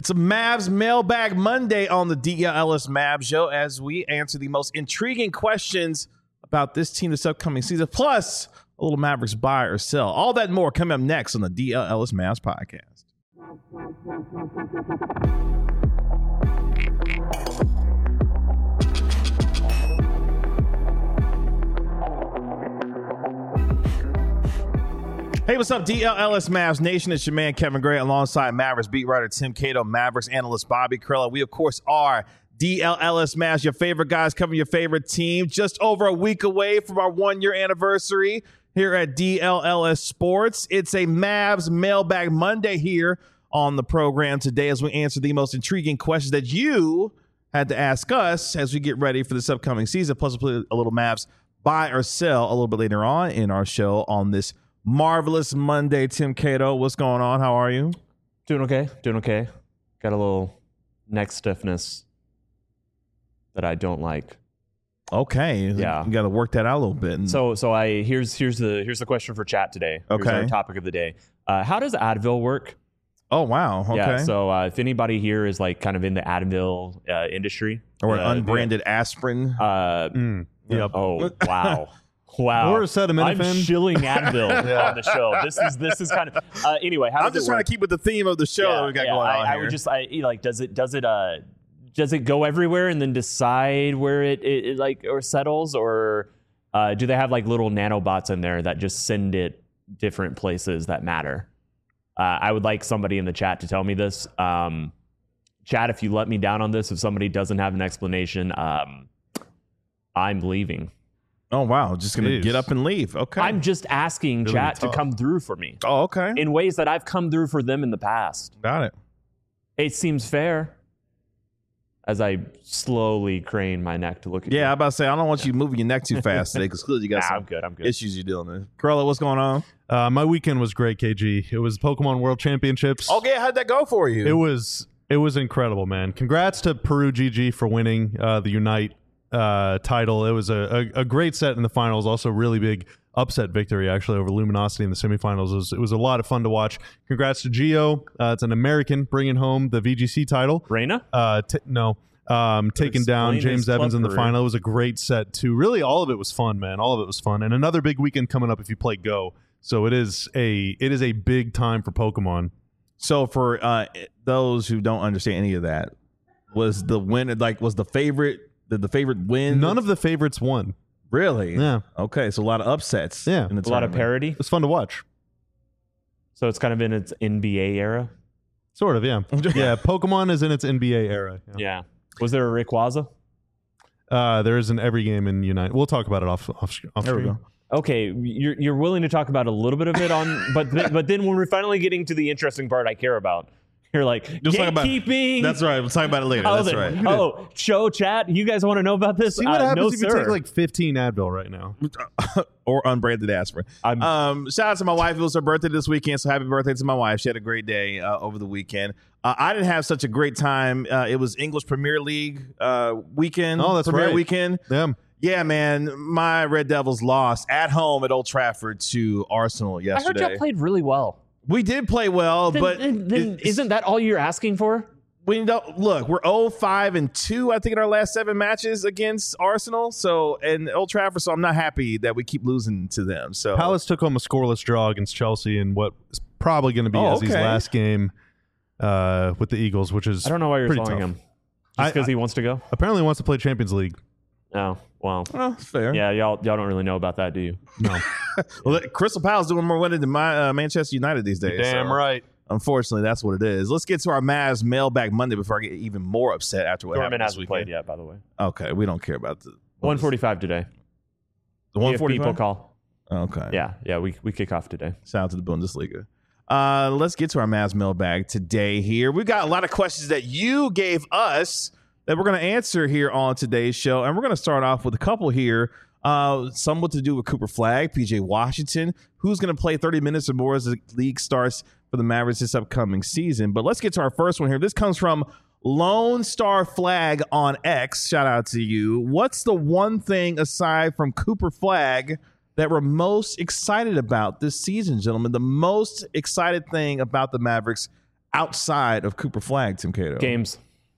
It's a Mavs Mailbag Monday on the DLS Mavs Show as we answer the most intriguing questions about this team this upcoming season, plus a little Mavericks buy or sell. All that and more coming up next on the DLS Mavs podcast. Hey, what's up, DLS Mavs Nation? It's your man, Kevin Gray, alongside Mavericks beat writer Tim Cato, Mavericks analyst Bobby Carrillo. We, of course, are DLS Mavs, your favorite guys covering your favorite team. Just over a week away from our one-year anniversary here at DLS Sports. It's a Mavs Mailbag Monday here on the program today as we answer the most intriguing questions that you had to ask us as we get ready for this upcoming season. Plus, we'll play a little Mavs buy or sell a little bit later on in our show on this marvelous Monday. Tim Cato, what's going on? How are you? Doing okay. Got a little neck stiffness that I don't like. Okay. Yeah. You got to work that out a little bit. So here's the question for chat today. Okay. Here's our topic of the day. How does Advil work? Oh, wow. Okay. Yeah. So if anybody here is like kind of in the Advil industry or unbranded aspirin. Yep. Oh, wow. Wow. Or acetaminophen. I'm shilling Advil on the show. This is kind of anyway. How I'm just trying to keep with the theme of the show that we got going on I here. would just does it go everywhere and then decide where it like or settles, or do they have like little nanobots in there that just send it different places that matter? I would like somebody in the chat to tell me this. Chat, if you let me down on this, if somebody doesn't have an explanation, I'm leaving. Oh, wow. Just going to get up and leave. Okay. I'm just asking Really chat tough. to come through for me Oh, okay. in ways that I've come through for them in the past. Got it. It seems fair. As I slowly crane my neck to look at you. Yeah, I'm about to say, I don't want you moving your neck too fast today because clearly you got some I'm good. issues you're dealing with. Carlo, what's going on? My weekend was great, KG. It was Pokemon World Championships. Okay, how'd that go for you? It was incredible, man. Congrats to Peru GG for winning the Unite title. It was a great set in the finals. Also, really big upset victory actually over Luminosity in the semifinals. It was a lot of fun to watch. Congrats to Gio. It's an American bringing home the VGC title. Reina? Taking down Explain James his Evans in the career. final. It was a great set too. Really, all of it was fun, man. All of it was fun. And another big weekend coming up if you play Go. So it is a big time for Pokemon. So for those who don't understand any of that, was the winner was the favorite? Did the favorite win? None of the favorites won. Really? Yeah. Okay, so a lot of upsets. Yeah. in the A lot of tournament. parody. It's fun to watch. So it's kind of in its NBA era. Sort of, yeah. Yeah, Pokemon is in its NBA era. Yeah. Was there a Rayquaza? There is in every game in Unite. We'll talk about it off There we screen. go. Okay, you're willing to talk about a little bit of it on, but then when we're finally getting to the interesting part I care about, you're like Just talk about- gatekeeping. That's right. We'll talk about it later. Oh, That's right. Oh, show chat. You guys want to know about this? See what happens no, if you sir. take like 15 Advil right now. Or unbranded aspirin. Shout out to my wife. It was her birthday this weekend, so happy birthday to my wife. She had a great day over the weekend. I didn't have such a great time. It was English Premier League weekend. Oh, that's Premier right. weekend. Yeah, man. My Red Devils lost at home at Old Trafford to Arsenal I heard yesterday. y'all played really well. We did play well, but then isn't that all you're asking for? we don't look. We're 0-5-2, I think, in our last 7 matches against Arsenal. So and Old Trafford. So I'm not happy that we keep losing to them. So Palace took home a scoreless draw against Chelsea in what is probably going to be Ezzy's last game with the Eagles, which is I don't know why you're pretty telling tough. him. Just because he wants to go? Apparently wants to play Champions League. Oh, well. oh, fair. Yeah, y'all don't really know about that, do you? No. Well, Crystal Palace doing more winning than my Manchester United these days. Damn so, right. Unfortunately, that's what it is. Let's get to our Mavs mailbag Monday before I get even more upset after what Dortmund happened this hasn't weekend. played yet, by the way. Okay, we don't care about the 1:45 today. The If people 145. call. Okay. Yeah, we kick off today. Shout out to the Bundesliga. Let's get to our Mavs mailbag today here. We've got a lot of questions that you gave us that we're going to answer here on today's show. And we're going to start off with a couple here. Somewhat to do with Cooper Flagg, PJ Washington, who's going to play 30 minutes or more as the league starts for the Mavericks this upcoming season. But let's get to our first one here. This comes from Lone Star Flag on X. Shout out to you. What's the one thing aside from Cooper Flagg that we're most excited about this season, gentlemen? The most excited thing about the Mavericks outside of Cooper Flag, Tim Cato? Games.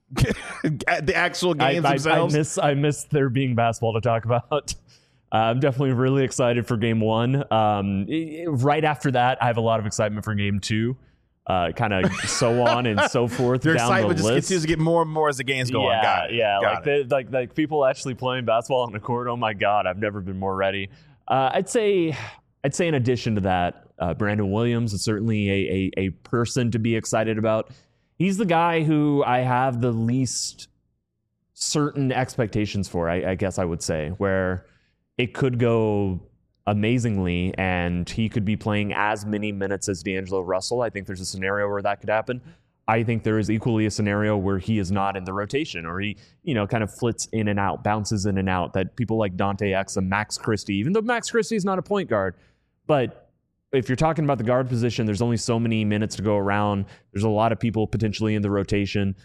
The actual games themselves? I miss there being basketball to talk about. I'm definitely really excited for game 1. Right after that, I have a lot of excitement for game 2. Kind of so on and so forth. Their down excitement the just list. continues to get more and more as the games go on. Got it. Got it. Like people actually playing basketball on the court. Oh my God, I've never been more ready. I'd say in addition to that, Brandon Williams is certainly a person to be excited about. He's the guy who I have the least certain expectations for, I guess I would say, where it could go amazingly and he could be playing as many minutes as D'Angelo Russell. I think there's a scenario where that could happen. I think there is equally a scenario where he is not in the rotation, or he, kind of flits in and out, bounces in and out, that people like Dante Exum, Max Christie, even though Max Christie is not a point guard, but if you're talking about the guard position, there's only so many minutes to go around. There's a lot of people potentially in the rotation.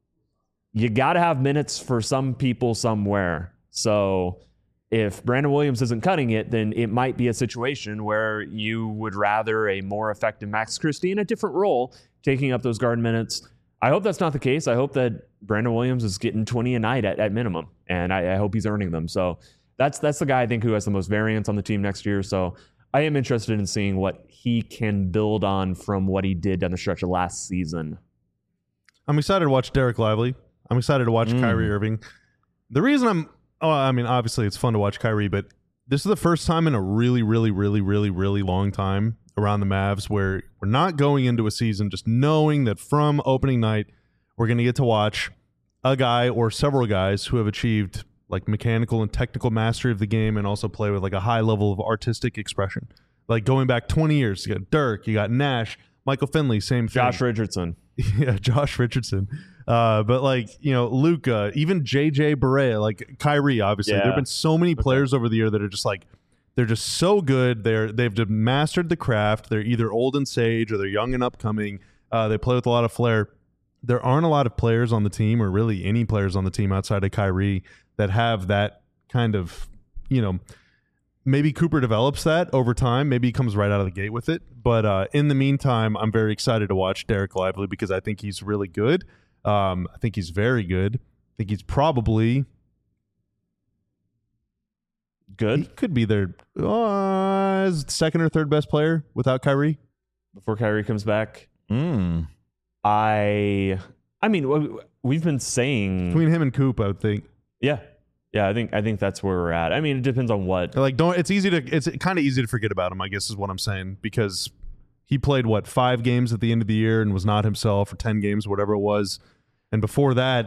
You got to have minutes for some people somewhere. So if Brandon Williams isn't cutting it, then it might be a situation where you would rather a more effective Max Christie in a different role taking up those guard minutes. I hope that's not the case. I hope that Brandon Williams is getting 20 a night at minimum, and I hope he's earning them. So that's the guy I think who has the most variance on the team next year. So I am interested in seeing what he can build on from what he did down the stretch of last season. I'm excited to watch Derek Lively. I'm excited to watch Kyrie Irving. The reason obviously it's fun to watch Kyrie, but this is the first time in a really, really, really, really, really long time around the Mavs where we're not going into a season just knowing that from opening night we're going to get to watch a guy or several guys who have achieved like mechanical and technical mastery of the game and also play with like a high level of artistic expression. Like going back 20 years, you got Dirk, you got Nash, Michael Finley, same thing. Josh Richardson. Yeah, Josh Richardson. But like, Luka, even JJ Barea, like Kyrie, obviously. Yeah. There have been so many players over the year that are just like, they're just so good. They've mastered the craft. They're either old and sage or they're young and upcoming. They play with a lot of flair. There aren't a lot of players on the team, or really any players on the team outside of Kyrie, that have that kind of, maybe Cooper develops that over time. Maybe he comes right out of the gate with it. But in the meantime, I'm very excited to watch Derek Lively because I think he's really good. I think he's very good. I think he's probably good. He could be their second or third best player without Kyrie. Before Kyrie comes back. I mean, we've been saying between him and Coop, I would think. Yeah, I think that's where we're at. I mean, it depends on what. Like, it's kind of easy to forget about him, I guess is what I'm saying, because he played 5 games at the end of the year and was not himself, or 10 games, whatever it was. And before that,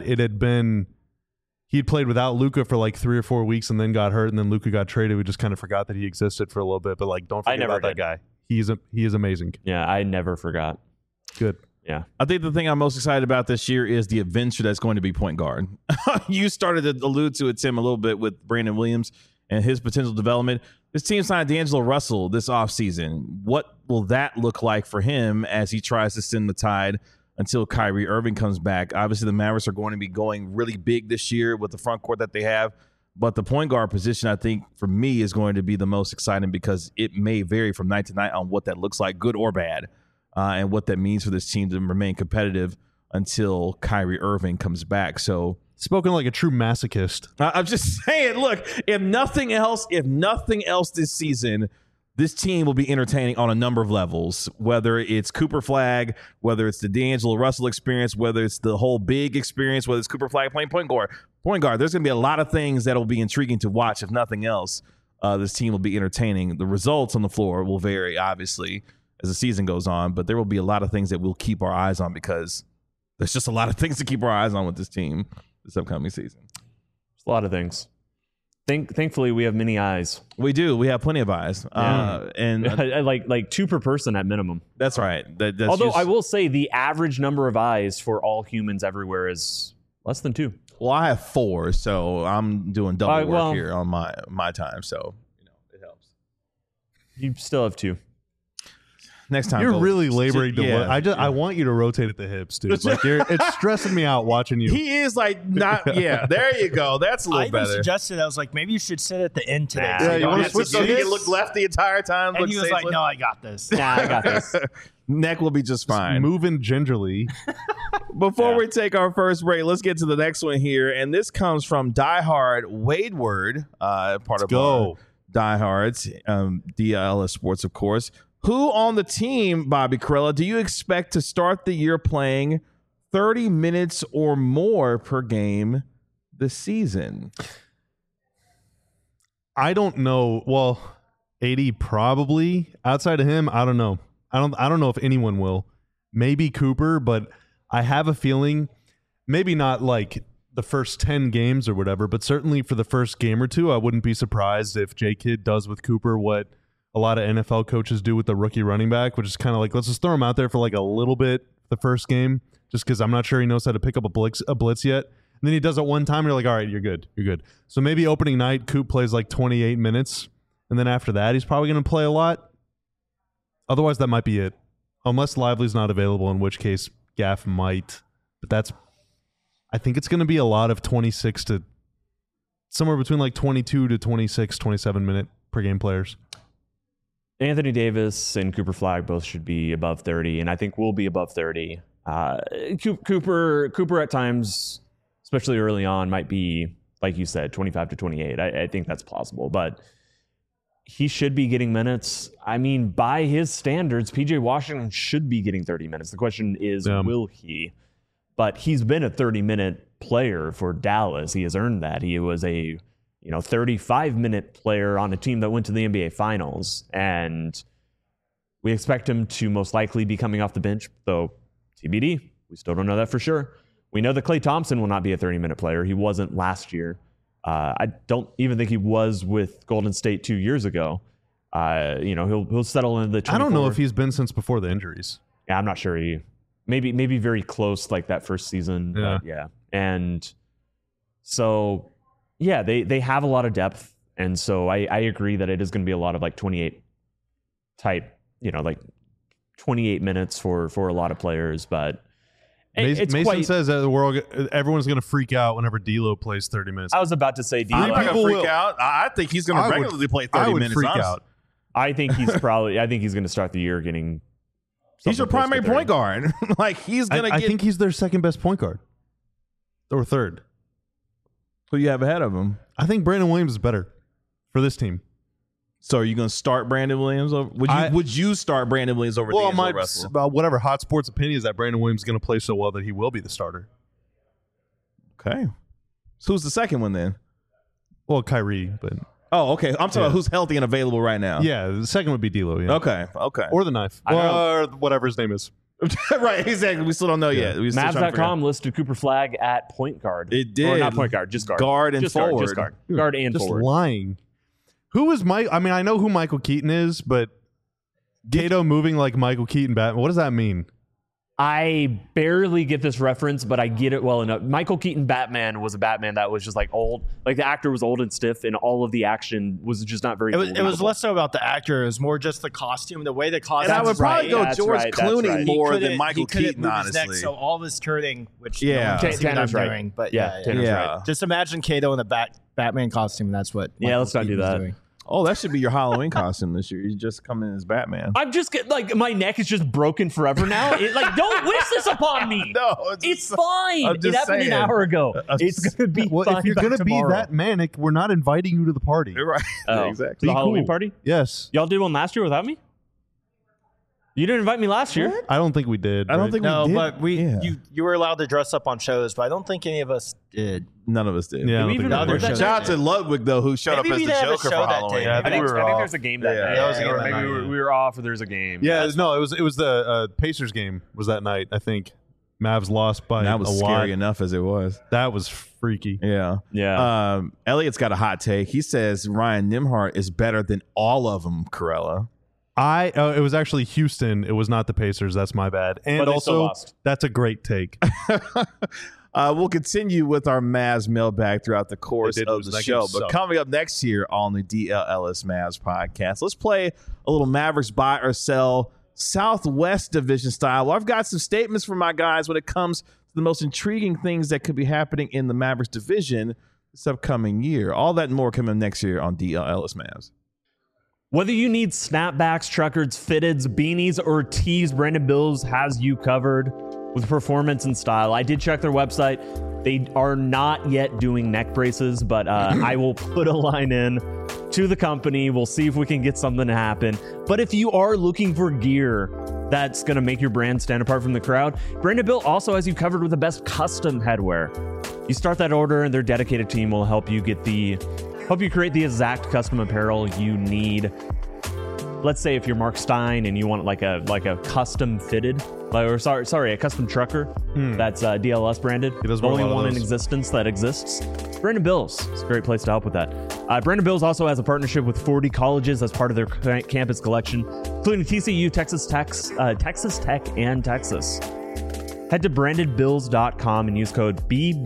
he'd played without Luka for like 3 or 4 weeks and then got hurt, and then Luka got traded. We just kind of forgot that he existed for a little bit. But like, don't forget about that guy. He is amazing. Yeah, I never forgot. Good. Yeah. I think the thing I'm most excited about this year is the adventure that's going to be point guard. You started to allude to it, Tim, a little bit with Brandon Williams and his potential development. This team signed D'Angelo Russell this offseason. What will that look like for him as he tries to stem the tide until Kyrie Irving comes back? Obviously, the Mavericks are going to be going really big this year with the front court that they have. But the point guard position, I think, for me, is going to be the most exciting because it may vary from night to night on what that looks like, good or bad. And what that means for this team to remain competitive until Kyrie Irving comes back. So, spoken like a true masochist. I'm just saying, look, if nothing else this season, this team will be entertaining on a number of levels, whether it's Cooper Flag, whether it's the D'Angelo Russell experience, whether it's the whole big experience, whether it's Cooper Flag playing point guard. There's going to be a lot of things that will be intriguing to watch. If nothing else, this team will be entertaining. The results on the floor will vary, obviously, as the season goes on, but there will be a lot of things that we'll keep our eyes on because there's just a lot of things to keep our eyes on with this team this upcoming season. There's a lot of things. Thankfully, we have many eyes. We do. We have plenty of eyes. Yeah. And like 2 per person at minimum. That's right. Although I will say the average number of eyes for all humans everywhere is less than 2. Well, I have 4, so I'm doing double work here on my time. So, it helps. You still have 2. Next time, you're really laboring to look. I want you to rotate at the hips, dude. Like it's stressing me out watching you. He is like not. Yeah, there you go. That's a little better. I even suggested, I was like, maybe you should sit at the end today. Yeah, you want to switch so he can look left the entire time. And he was like, "No, I got this." Nah, I got this. Neck will be just fine. Moving gingerly. Before we take our first break, let's get to the next one here. And this comes from Diehard Wadeward, part of our Diehards, DLS Sports, of course. Who on the team, Bobby Karalla, do you expect to start the year playing 30 minutes or more per game this season? I don't know. Well, 80 probably. Outside of him, I don't know. I don't know if anyone will. Maybe Cooper, but I have a feeling, maybe not like the first 10 games or whatever, but certainly for the first game or two, I wouldn't be surprised if J-Kid does with Cooper what a lot of NFL coaches do with the rookie running back, which is kind of like, let's just throw him out there for like a little bit the first game, just because I'm not sure he knows how to pick up a blitz yet. And then he does it one time, and you're like, all right, you're good. So maybe opening night, Coop plays like 28 minutes, and then after that, he's probably going to play a lot. Otherwise, that might be it. Unless Lively's not available, in which case Gaff might. But I think it's going to be a lot of 26 to somewhere between like 22 to 26, 27 minute per game players. Anthony Davis and Cooper Flagg both should be above 30, and I think we'll be above 30. Cooper at times, especially early on, might be, like you said, 25 to 28. I think that's plausible, but he should be getting minutes. I mean, by his standards, PJ Washington should be getting 30 minutes. The question is, will he? But he's been a 30-minute player for Dallas. He has earned that. He was a 35-minute player on a team that went to the NBA Finals, and we expect him to most likely be coming off the bench, though TBD. We still don't know that for sure. We know that Klay Thompson will not be a 30-minute player. He wasn't last year. I don't even think he was with Golden State 2 years ago. He'll settle into the 24. I don't know if he's been since before the injuries. Yeah, I'm not sure. Maybe very close, like that first season. Yeah. Yeah. And so, yeah, they have a lot of depth. And so I agree that it is going to be a lot of like 28 type, like 28 minutes for a lot of players. But Mason says that everyone's going to freak out whenever D'Lo plays 30 minutes. I was about to say D'Lo. I'm not going to freak out. I think he's going to regularly play 30 minutes. Freak out. I think he's going to start the year getting. He's your primary point guard. He's going to I think he's their second best point guard. Or third. Who you have ahead of him? I think Brandon Williams is better for this team. So are you going to start Brandon Williams over? Would you start Brandon Williams over D'Angelo Russell? Whatever Hot Sports opinion is that Brandon Williams is going to play so well that he will be the starter. Okay. So who's the second one then? Well, Kyrie, but... Oh, okay. I'm talking about who's healthy and available right now. Yeah, the second would be D'Lo. Yeah. Okay. Or the knife. Or whatever his name is. Right, exactly. We still don't know yet. Mavs.com listed Cooper Flagg at point guard. It did. Or not point guard, just guard. Guard and forward. Just guard. Guard and just forward. Lying. Who is Mike? I mean, I know who Michael Keaton is, but Cato moving like Michael Keaton Batman. What does that mean? I barely get this reference, but I get it well enough. Michael Keaton Batman was a Batman that was just like old. Like the actor was old and stiff, and all of the action was just not very. It was less so about the actor. It was more just the costume, the way the costume. And I would probably go George Clooney right. more than Michael Keaton, move honestly. his neck, so all of his turning, which Tanner's right. doing, but Tanner's right. Just imagine Kato in the Batman costume. That's what. Let's not do that. Doing. Oh, that should be your Halloween costume this year. You just come in as Batman. I'm just like my neck is just broken forever now. Don't wish this upon me. No, it's fine. It happened saying. an hour ago. It's gonna be fine. If you're gonna be that manic, we're not inviting you to the party. You're right. Exactly. The Halloween cool. party? Yes. Y'all did one last year without me? You didn't invite me last year. I don't think we did. I don't think we did. But you were allowed to dress up on shows, but I don't think any of us did. None of us did. Yeah, Did we even other shows. Shout out to Ludwig though, who showed Maybe up as we the didn't have a Joker show for that Halloween. day. Yeah, I think we were off. there's a game that Yeah, night. that was a game Maybe that night. we were off, or there's a game. Yeah, no, it was the Pacers game was that night. I think Mavs lost by That was a scary lot. enough as it was. That was freaky. Yeah. Elliot's got a hot take. He says Ryan Nembhard is better than all of them, Karalla. It was actually Houston. It was not the Pacers. That's my bad. And But they still also, lost. that's a great take. We'll continue with our Mavs mailbag throughout the course They did of lose. the That show. game But sucked. coming up next year on the DLLS Mavs podcast, let's play a little Mavericks buy or sell Southwest Division style. Well, I've got some statements from my guys when it comes to the most intriguing things that could be happening in the Mavericks division this upcoming year. All that and more coming next year on DLLS Mavs. Whether you need snapbacks, truckers, fitteds, beanies, or tees, Brandon Bills has you covered with performance and style. I did check their website. They are not yet doing neck braces, but I will put a line in to the company. We'll see if we can get something to happen. But if you are looking for gear that's going to make your brand stand apart from the crowd, Brandon Bill also has you covered with the best custom headwear. You start that order and their dedicated team will help you create the exact custom apparel you need. Let's say if you're Mark Stein and you want like a custom fitted, a custom trucker that's DLS branded, He does the only wear a lot of one in those. existence that exists. Brandon Bills is a great place to help with that. Brandon Bills also has a partnership with 40 colleges as part of their campus collection, including TCU, Texas Tech, and Texas. Head to brandonbills.com and use code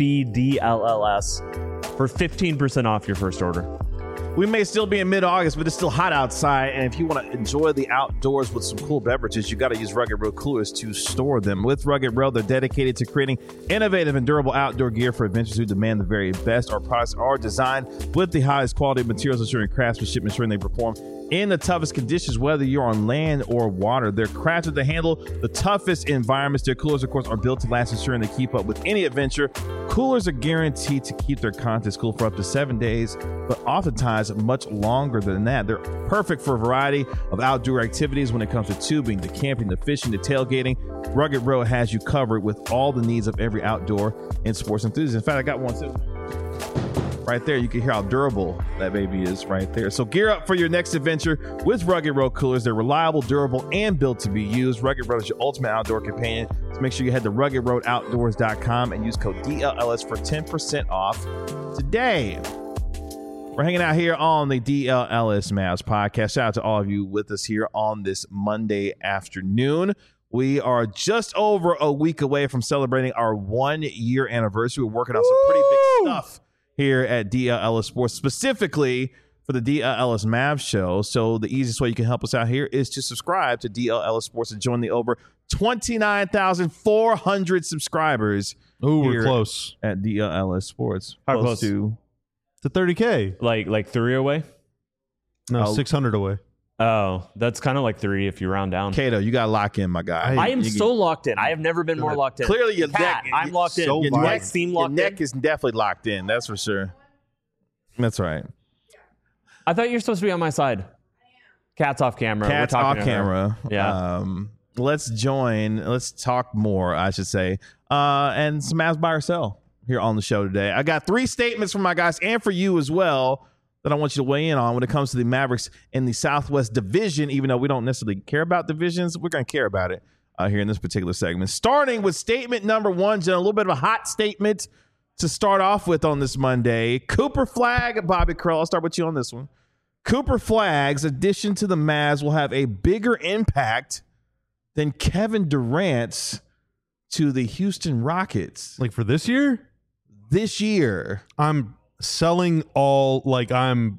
BBDLLS for 15% off your first order. We may still be in mid-August, but it's still hot outside. And if you want to enjoy the outdoors with some cool beverages, you got to use Rugged Road coolers to store them. With Rugged Road, they're dedicated to creating innovative and durable outdoor gear for adventurers who demand the very best. Our products are designed with the highest quality materials, ensuring craftsmanship, ensuring they perform in the toughest conditions, whether you're on land or water. They're crafted to handle the toughest environments. Their coolers, of course, are built to last, ensuring they keep up with any adventure. Coolers are guaranteed to keep their contents cool for up to 7 days, but oftentimes much longer than that. They're perfect for a variety of outdoor activities when it comes to tubing, to camping, to fishing, to tailgating. Rugged Road has you covered with all the needs of every outdoor and sports enthusiast. In fact, I got one too. Right there, you can hear how durable that baby is right there. So gear up for your next adventure with Rugged Road coolers. They're reliable, durable, and built to be used. Rugged Road is your ultimate outdoor companion. So make sure you head to ruggedroadoutdoors.com and use code DLLS for 10% off today. We're hanging out here on the DLLS Mavs podcast. Shout out to all of you with us here on this Monday afternoon. We are just over a week away from celebrating our 1 year anniversary. We're working on some pretty big stuff here at DLLS Sports, specifically for the DLLS Mavs show. So the easiest way you can help us out here is to subscribe to DLLS Sports and join the over 29,400 subscribers. Ooh, we're here close at DLLS Sports. How close? To to 30K. Like 3 away? No, Oh. 600 away. Oh, that's kind of like 3 if you round down. Kato, you got to lock in, my guy. I am so locked in. I have never been more locked in. Clearly your Cat, neck. I'm locked in. so Your locked neck in. seem Your locked neck in. is definitely locked in. That's for sure. That's right. I thought you were supposed to be on my side. Cat's off camera. Cat's We're off talking to her. camera. Yeah. Let's talk more, I should say. And some Mavs buy or sell here on the show today. I got 3 statements from my guys and for you as well that I want you to weigh in on when it comes to the Mavericks in the Southwest Division. Even though we don't necessarily care about divisions, we're going to care about it here in this particular segment. Starting with statement number 1, Jen, a little bit of a hot statement to start off with on this Monday. Cooper Flagg, Bobby Krell, I'll start with you on this one. Cooper Flagg's addition to the Mavs will have a bigger impact than Kevin Durant's to the Houston Rockets Like for this year, this year. I'm selling all, like I'm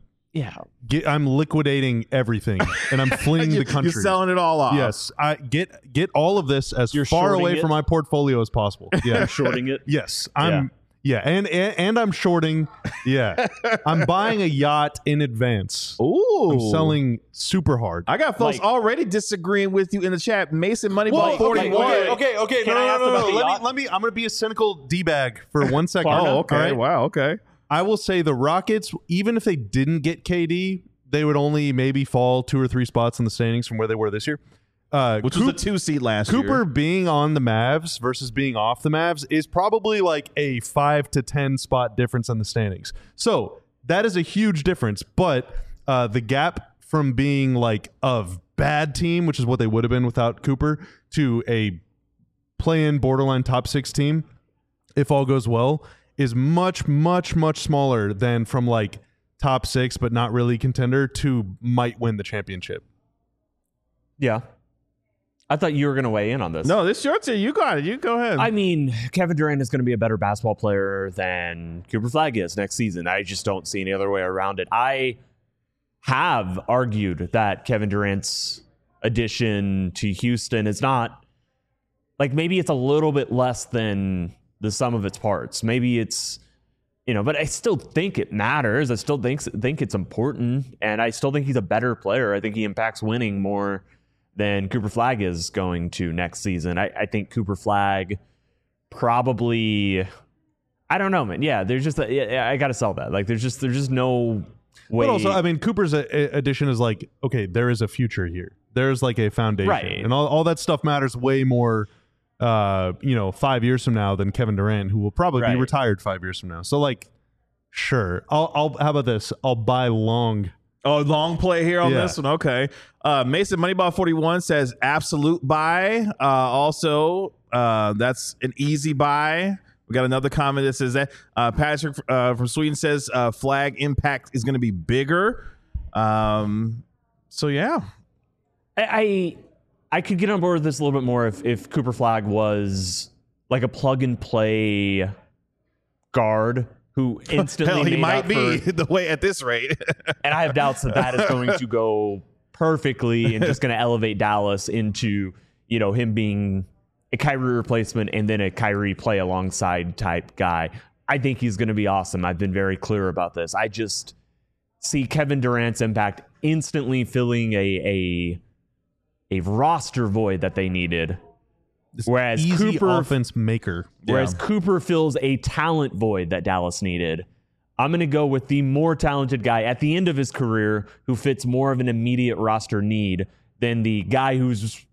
liquidating everything and I'm fleeing the country. You're selling it all off. Yes, I get all of this as You're far shorting away it? from my portfolio as possible. Yeah, Shorting it. yes, I'm. Yeah, and I'm shorting. Yeah, I'm buying a yacht in advance. Ooh. I'm selling super hard. I got folks Like- already disagreeing with you in the chat. Mason Moneyball 41. Okay. Can I ask about the yacht? Let me. I'm gonna be a cynical d-bag for 1 second. Oh, okay. All right? Wow, okay. I will say the Rockets, even if they didn't get KD, they would only maybe fall 2 or 3 spots in the standings from where they were this year. Which was a 2 seed last Cooper year. being on the Mavs versus being off the Mavs is probably like a 5 to 10 spot difference in the standings. So that is a huge difference. But the gap from being like a bad team, which is what they would have been without Cooper, to a play-in borderline top 6 team, if all goes well, is much, much, much smaller than from like top 6 but not really contender to might win the championship. Yeah. I thought you were going to weigh in on this. No, this is your turn. You got it. You go ahead. I mean, Kevin Durant is going to be a better basketball player than Cooper Flagg is next season. I just don't see any other way around it. I have argued that Kevin Durant's addition to Houston is not, like, maybe it's a little bit less than the sum of its parts. Maybe it's but I still think it matters. I still think it's important, and I still think he's a better player. I think he impacts winning more than Cooper Flagg is going to next season. I think Cooper Flagg probably, I don't know, man. Yeah, there's just I got to sell that. Like, there's just no way. But also, I mean, Cooper's addition is like, okay, there is a future here. There's like a foundation, right, and all that stuff matters way more. 5 years from now than Kevin Durant, who will probably be retired 5 years from now. So, like, sure, I'll how about this? I'll buy long. Oh, long play here on this one. Okay. Mason Moneyball 41 says absolute buy. Also, that's an easy buy. We got another comment that says that. Patrick from Sweden says Flagg impact is going to be bigger. So yeah, I could get on board with this a little bit more if Cooper Flagg was like a plug and play guard who instantly hell, he made might up be for, the way at this rate. and I have doubts that is going to go perfectly and just going to elevate Dallas into, him being a Kyrie replacement and then a Kyrie play alongside type guy. I think he's going to be awesome. I've been very clear about this. I just see Kevin Durant's impact instantly filling a roster void that they needed. Whereas easy Cooper offense maker. Whereas Cooper fills a talent void that Dallas needed. I'm going to go with the more talented guy at the end of his career who fits more of an immediate roster need than the guy who's,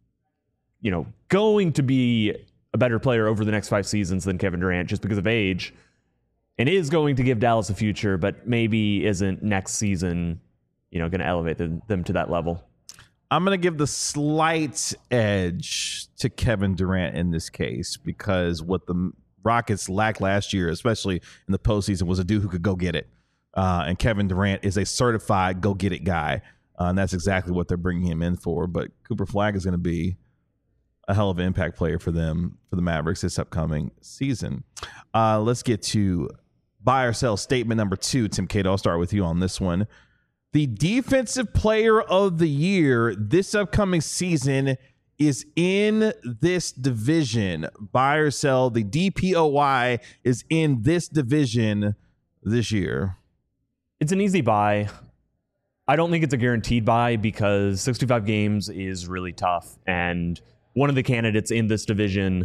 going to be a better player over the next 5 seasons than Kevin Durant just because of age and is going to give Dallas a future, but maybe isn't next season, going to elevate them to that level. I'm going to give the slight edge to Kevin Durant in this case because what the Rockets lacked last year, especially in the postseason, was a dude who could go get it. And Kevin Durant is a certified go-get-it guy. And that's exactly what they're bringing him in for. But Cooper Flagg is going to be a hell of an impact player for them, for the Mavericks this upcoming season. Let's get to buy or sell statement number 2. Tim Cato, I'll start with you on this one. The defensive player of the year this upcoming season is in this division. Buy or sell, the DPOY is in this division this year. It's an easy buy. I don't think it's a guaranteed buy because 65 games is really tough. And one of the candidates in this division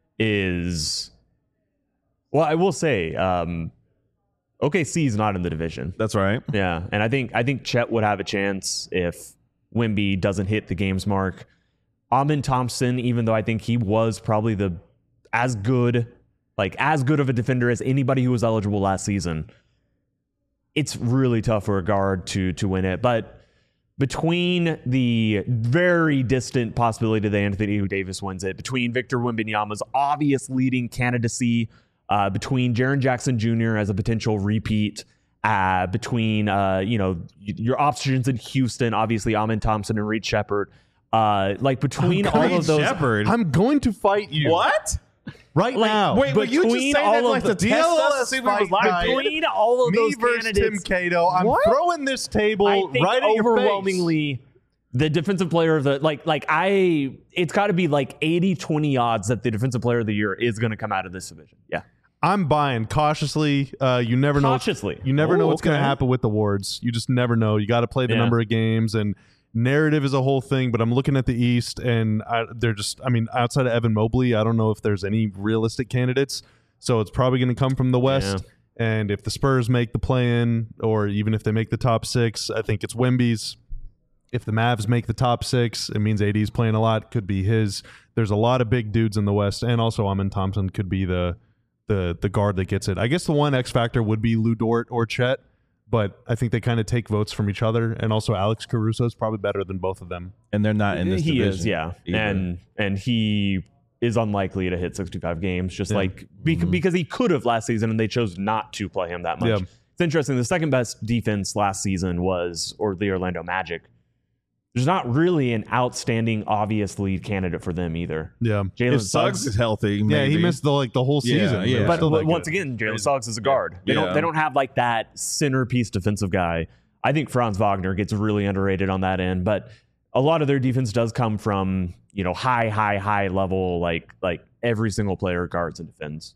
is, well, I will say, OKC is not in the division. That's right. Yeah, and I think Chet would have a chance if Wemby doesn't hit the games mark. Amen Thompson, even though I think he was probably as good of a defender as anybody who was eligible last season, it's really tough for a guard to win it. But between the very distant possibility that Anthony Davis wins it, between Victor Wembanyama's obvious leading candidacy, between Jaren Jackson Jr. as a potential repeat, between your options in Houston, obviously Amen Thompson and Reed Shepherd, between all of those, Shepherd. I'm going to fight you. What? Right now. Wait, were you just saying that like the test us to see what was like? Between all of Me those versus candidates, Tim Cato. I'm throwing this table I think right at your face. overwhelmingly the defensive player of the it's got to be like 80-20 odds that the defensive player of the year is going to come out of this division. Yeah. I'm buying cautiously. You never know. Cautiously. You never know what's okay. going to happen with the awards. You just never know. You got to play the number of games, and narrative is a whole thing. But I'm looking at the East, and outside of Evan Mobley, I don't know if there's any realistic candidates. So it's probably going to come from the West. Yeah. And if the Spurs make the play-in, or even if they make the top 6, I think it's Wemby's. If the Mavs make the top 6, it means AD's playing a lot. Could be his. There's a lot of big dudes in the West, and also Amen Thompson could be the guard that gets it. I guess the one X factor would be Lou Dort or Chet, but I think they kind of take votes from each other. And also Alex Caruso is probably better than both of them. And they're not in this division. He is, yeah. Either. And he is unlikely to hit 65 games, because he could have last season and they chose not to play him that much. Yeah. It's interesting. The second best defense last season was the Orlando Magic. There's not really an outstanding, obvious lead candidate for them either. Yeah. If Suggs is healthy, maybe. Yeah, he missed the whole season. Yeah. But once again, Jalen Suggs is a guard. They don't have like that centerpiece defensive guy. I think Franz Wagner gets really underrated on that end, but a lot of their defense does come from high level, like every single player guards and defends.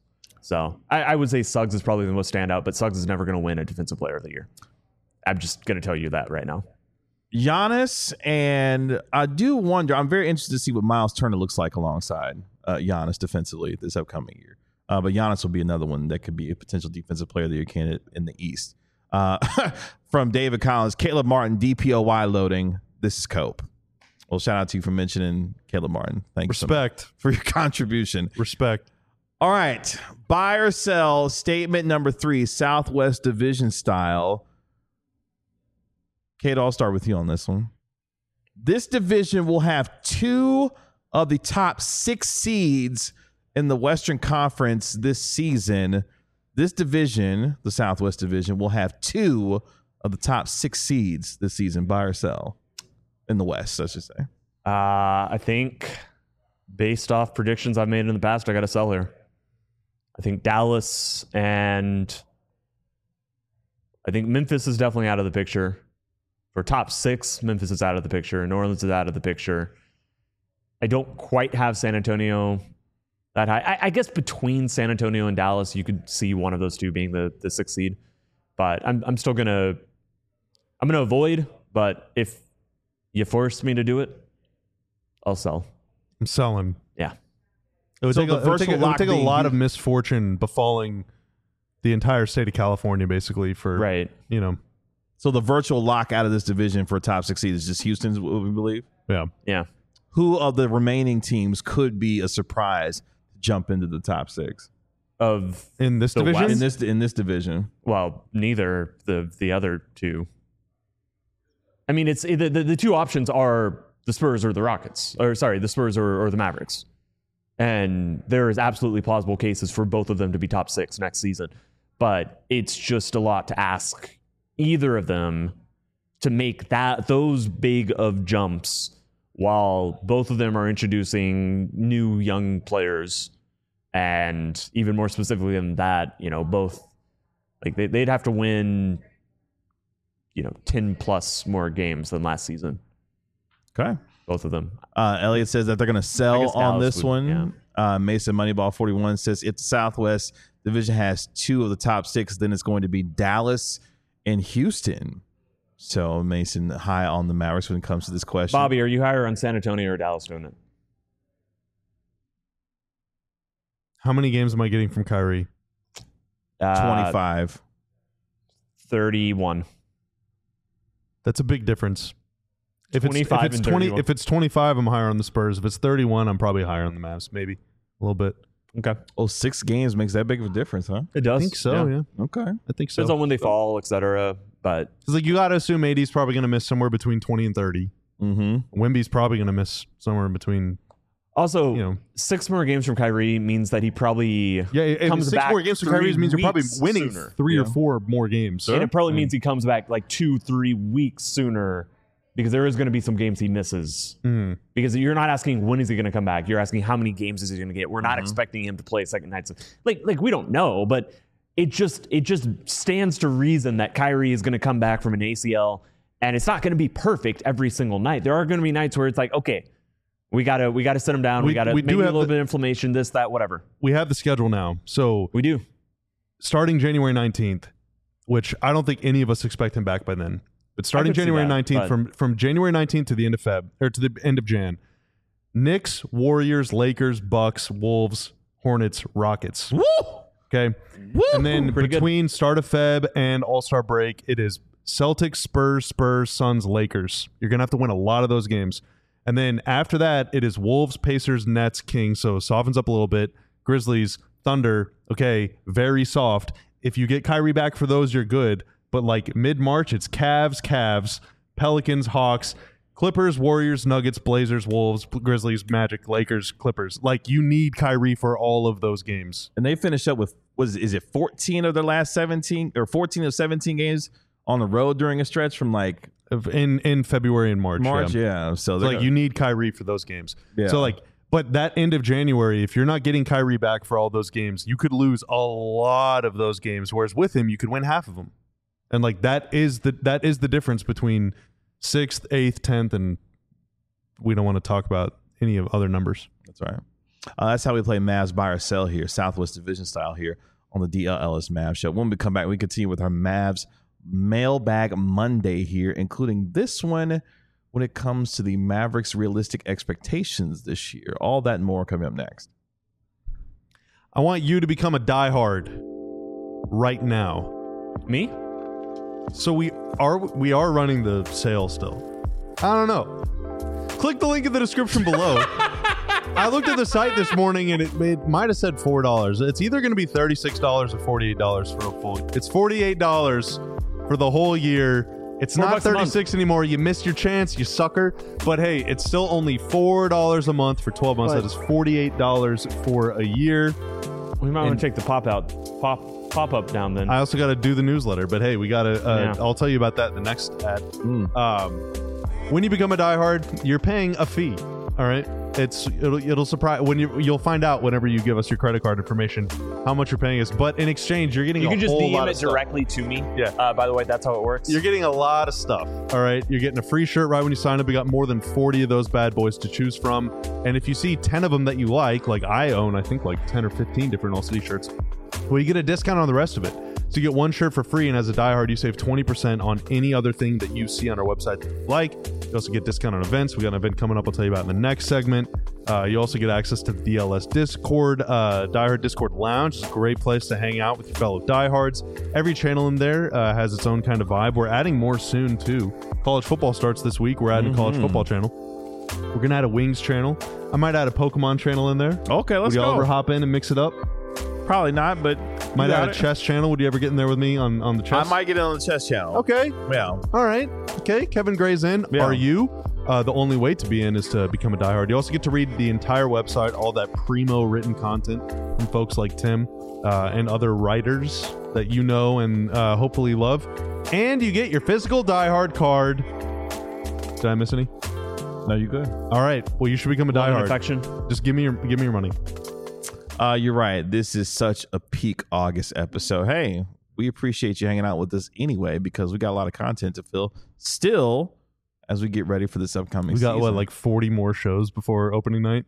So I would say Suggs is probably the most standout, but Suggs is never going to win a Defensive Player of the Year. I'm just going to tell you that right now. Giannis, and I do wonder, I'm very interested to see what Miles Turner looks like alongside Giannis defensively this upcoming year. But Giannis will be another one that could be a potential Defensive Player of the Year candidate in the East. From David Collins, Caleb Martin, DPOY loading. This is Cope. Well, shout out to you for mentioning Caleb Martin. Thank you so much for your contribution. Respect. All right. Buy or sell, statement number 3, Southwest Division style. Kate, I'll start with you on this one. This division will have 2 of the top 6 seeds in the Western Conference this season. This division, the Southwest Division, will have 2 of the top 6 seeds this season. Buy or sell in the West, I should say. I think based off predictions I've made in the past, I got to sell here. I think Dallas and I think Memphis is definitely out of the picture. For top 6, Memphis is out of the picture. New Orleans is out of the picture. I don't quite have San Antonio that high. I guess between San Antonio and Dallas, you could see one of those two being the 6th seed. But I'm still gonna avoid. But if you force me to do it, I'll sell. I'm selling. Yeah. It would take a lot of misfortune befalling the entire state of California, basically, for right. So the virtual lock out of this division for a top 6 seed is just Houston, what we believe? Yeah. Yeah. Who of the remaining teams could be a surprise to jump into the top 6 in this division? In this division. Well, neither the other two. I mean, it's the 2 options are the Spurs or the Rockets, or sorry, the Spurs or the Mavericks, and there is absolutely plausible cases for both of them to be top 6 next season. But it's just a lot to ask either of them to make those big of jumps while both of them are introducing new young players, and even more specifically than that, both like they'd have to win 10 plus more games than last season. Okay. Both of them. Elliot says that they're going to sell on this one. Yeah. Mason Moneyball 41 says if the Southwest Division has 2 of the top 6, then it's going to be Dallas and Houston. So Mason high on the Mavericks when it comes to this question. Bobby, are you higher on San Antonio or Dallas doing it? How many games am I getting from Kyrie? 25. 31. That's a big difference. If it's 25, I'm higher on the Spurs. If it's 31, I'm probably higher on the Mavs. Maybe a little bit. Okay. 6 games makes that big of a difference, huh? It does. I think so, yeah. Okay. I think so. Depends on when they fall, etc. But it's like you got to assume AD's probably going to miss somewhere between 20 and 30. Mm-hmm. Wemby's probably going to miss somewhere in between. Also, 6 more games from Kyrie means that he probably comes 6 back. 6 more games from Kyrie means you're probably winning sooner. 3 or 4 more games. And it probably means he comes back like 2-3 weeks sooner, because there is going to be some games he misses. Because you're not asking when is he going to come back. You're asking how many games is he going to get. We're not expecting him to play second nights. Like we don't know, but it just stands to reason that Kyrie is going to come back from an ACL, and it's not going to be perfect every single night. There are going to be nights where it's like, okay, we gotta sit him down. We gotta maybe a little bit of inflammation, this, that, whatever. We have the schedule now, so we do. Starting January 19th, which I don't think any of us expect him back by then. But starting January 19th, from January 19th to the end of Feb, or to the end of Jan, Knicks, Warriors, Lakers, Bucks, Wolves, Hornets, Rockets. Woo! Okay. Woo! And then between start of Feb and All-Star break, it is Celtics, Spurs, Suns, Lakers. You're going to have to win a lot of those games. And then after that, it is Wolves, Pacers, Nets, Kings. So softens up a little bit. Grizzlies, Thunder. Okay, very soft. If you get Kyrie back for those, you're good. But like mid-March, it's Cavs, Pelicans, Hawks, Clippers, Warriors, Nuggets, Blazers, Wolves, Grizzlies, Magic, Lakers, Clippers. Like, you need Kyrie for all of those games. And they finish up with, is it 14 of their last 17 or 14 of 17 games on the road during a stretch from like in February and March. Yeah. So like you need Kyrie for those games. Yeah. So like, but that end of January, if you're not getting Kyrie back for all those games, you could lose a lot of those games. Whereas with him, you could win half of them. And like that is the difference between 6th, 8th, 10th, and we don't want to talk about any of other numbers. That's right. That's how we play Mavs buy or sell here, Southwest Division style here on the DLLS Mavs show. When we come back, we continue with our Mavs Mailbag Monday here, including this one when it comes to the Mavericks' realistic expectations this year. All that and more coming up next. I want you to become a diehard right now. Me? So we are running the sale still. I don't know. Click the link in the description below. I looked at the site this morning and it might have said $4. It's either going to be $36 or $48 for a full. It's $48 for the whole year. It's not $36 anymore. You missed your chance, you sucker. But hey, it's still only $4 a month for 12 months. That is $48 for a year. We might want to take the pop up down then. I also got to do the newsletter, but hey, we got to. I'll tell you about that in the next ad. When you become a diehard, you're paying a fee. All right, it'll surprise when you'll find out whenever you give us your credit card information how much you're paying us. But in exchange, you're getting you can just DM it stuff directly to me. Yeah. By the way, that's how it works. You're getting a lot of stuff. All right, you're getting a free shirt right when you sign up. We got more than 40 of those bad boys to choose from, and if you see 10 of them that you like I own, I think like 10 or 15 different All City shirts. Well, you get a discount on the rest of it. So you get one shirt for free, and as a diehard, you save 20% on any other thing that you see on our website that you like. You also get discount on events. We got an event coming up I'll tell you about in the next segment. You also get access to the DLS Discord, Diehard Discord Lounge. It's a great place to hang out with your fellow diehards. Every channel in there has its own kind of vibe. We're adding more soon, too. College football starts this week. We're adding a college football channel. We're going to add a Wings channel. I might add a Pokemon channel in there. Okay, let's go. Would you ever hop in and mix it up? Probably not, but might add a chess channel. Would you ever get in there with me on the chess? I might get in on the chess channel. Okay. Yeah. All right. Okay. Kevin Gray's in. Yeah. Are you? The only way to be in is to become a diehard. You also get to read the entire website, all that primo written content from folks like Tim and other writers that you know and hopefully love. And you get your physical diehard card. Did I miss any? No, you good. All right. Well, you should become a diehard. Affection. Just give me your money. You're right. This is such a peak August episode. Hey, we appreciate you hanging out with us anyway because we got a lot of content to fill still as we get ready for this upcoming season. We got, like 40 more shows before opening night?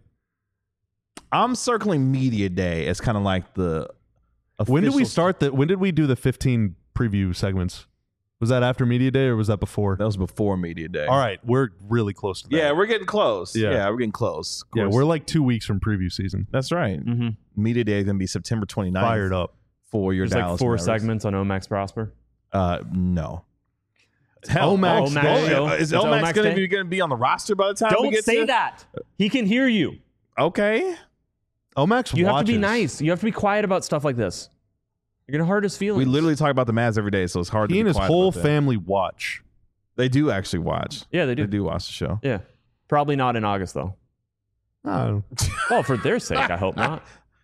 I'm circling Media Day as kind of like the When did we start when did we do the 15 preview segments? Was that after Media Day or was that before? That was before Media Day. All right. We're really close to that. Yeah, we're getting close. Yeah. We're getting close. Yeah, we're like 2 weeks from preview season. That's right. Mm-hmm. Media Day is going to be September 29th. Fired up. For your There's Dallas like 4 Mavericks. segments on Omax Prosper. No. Hell, Omax Day. show. Is It's Omax going Day? to be on the roster by the time we Don't get say to that. He can hear you. Okay. Omax You have to watches. be nice. You have to be quiet about stuff like this. You're going to hurt his feelings. We literally talk about the Mavs every day, so it's hard He to and be his quiet whole about that. family watch. They do actually watch. Yeah, they do. They do watch the show. Yeah. Probably not in August, though. Oh. Well, for their sake, I hope not.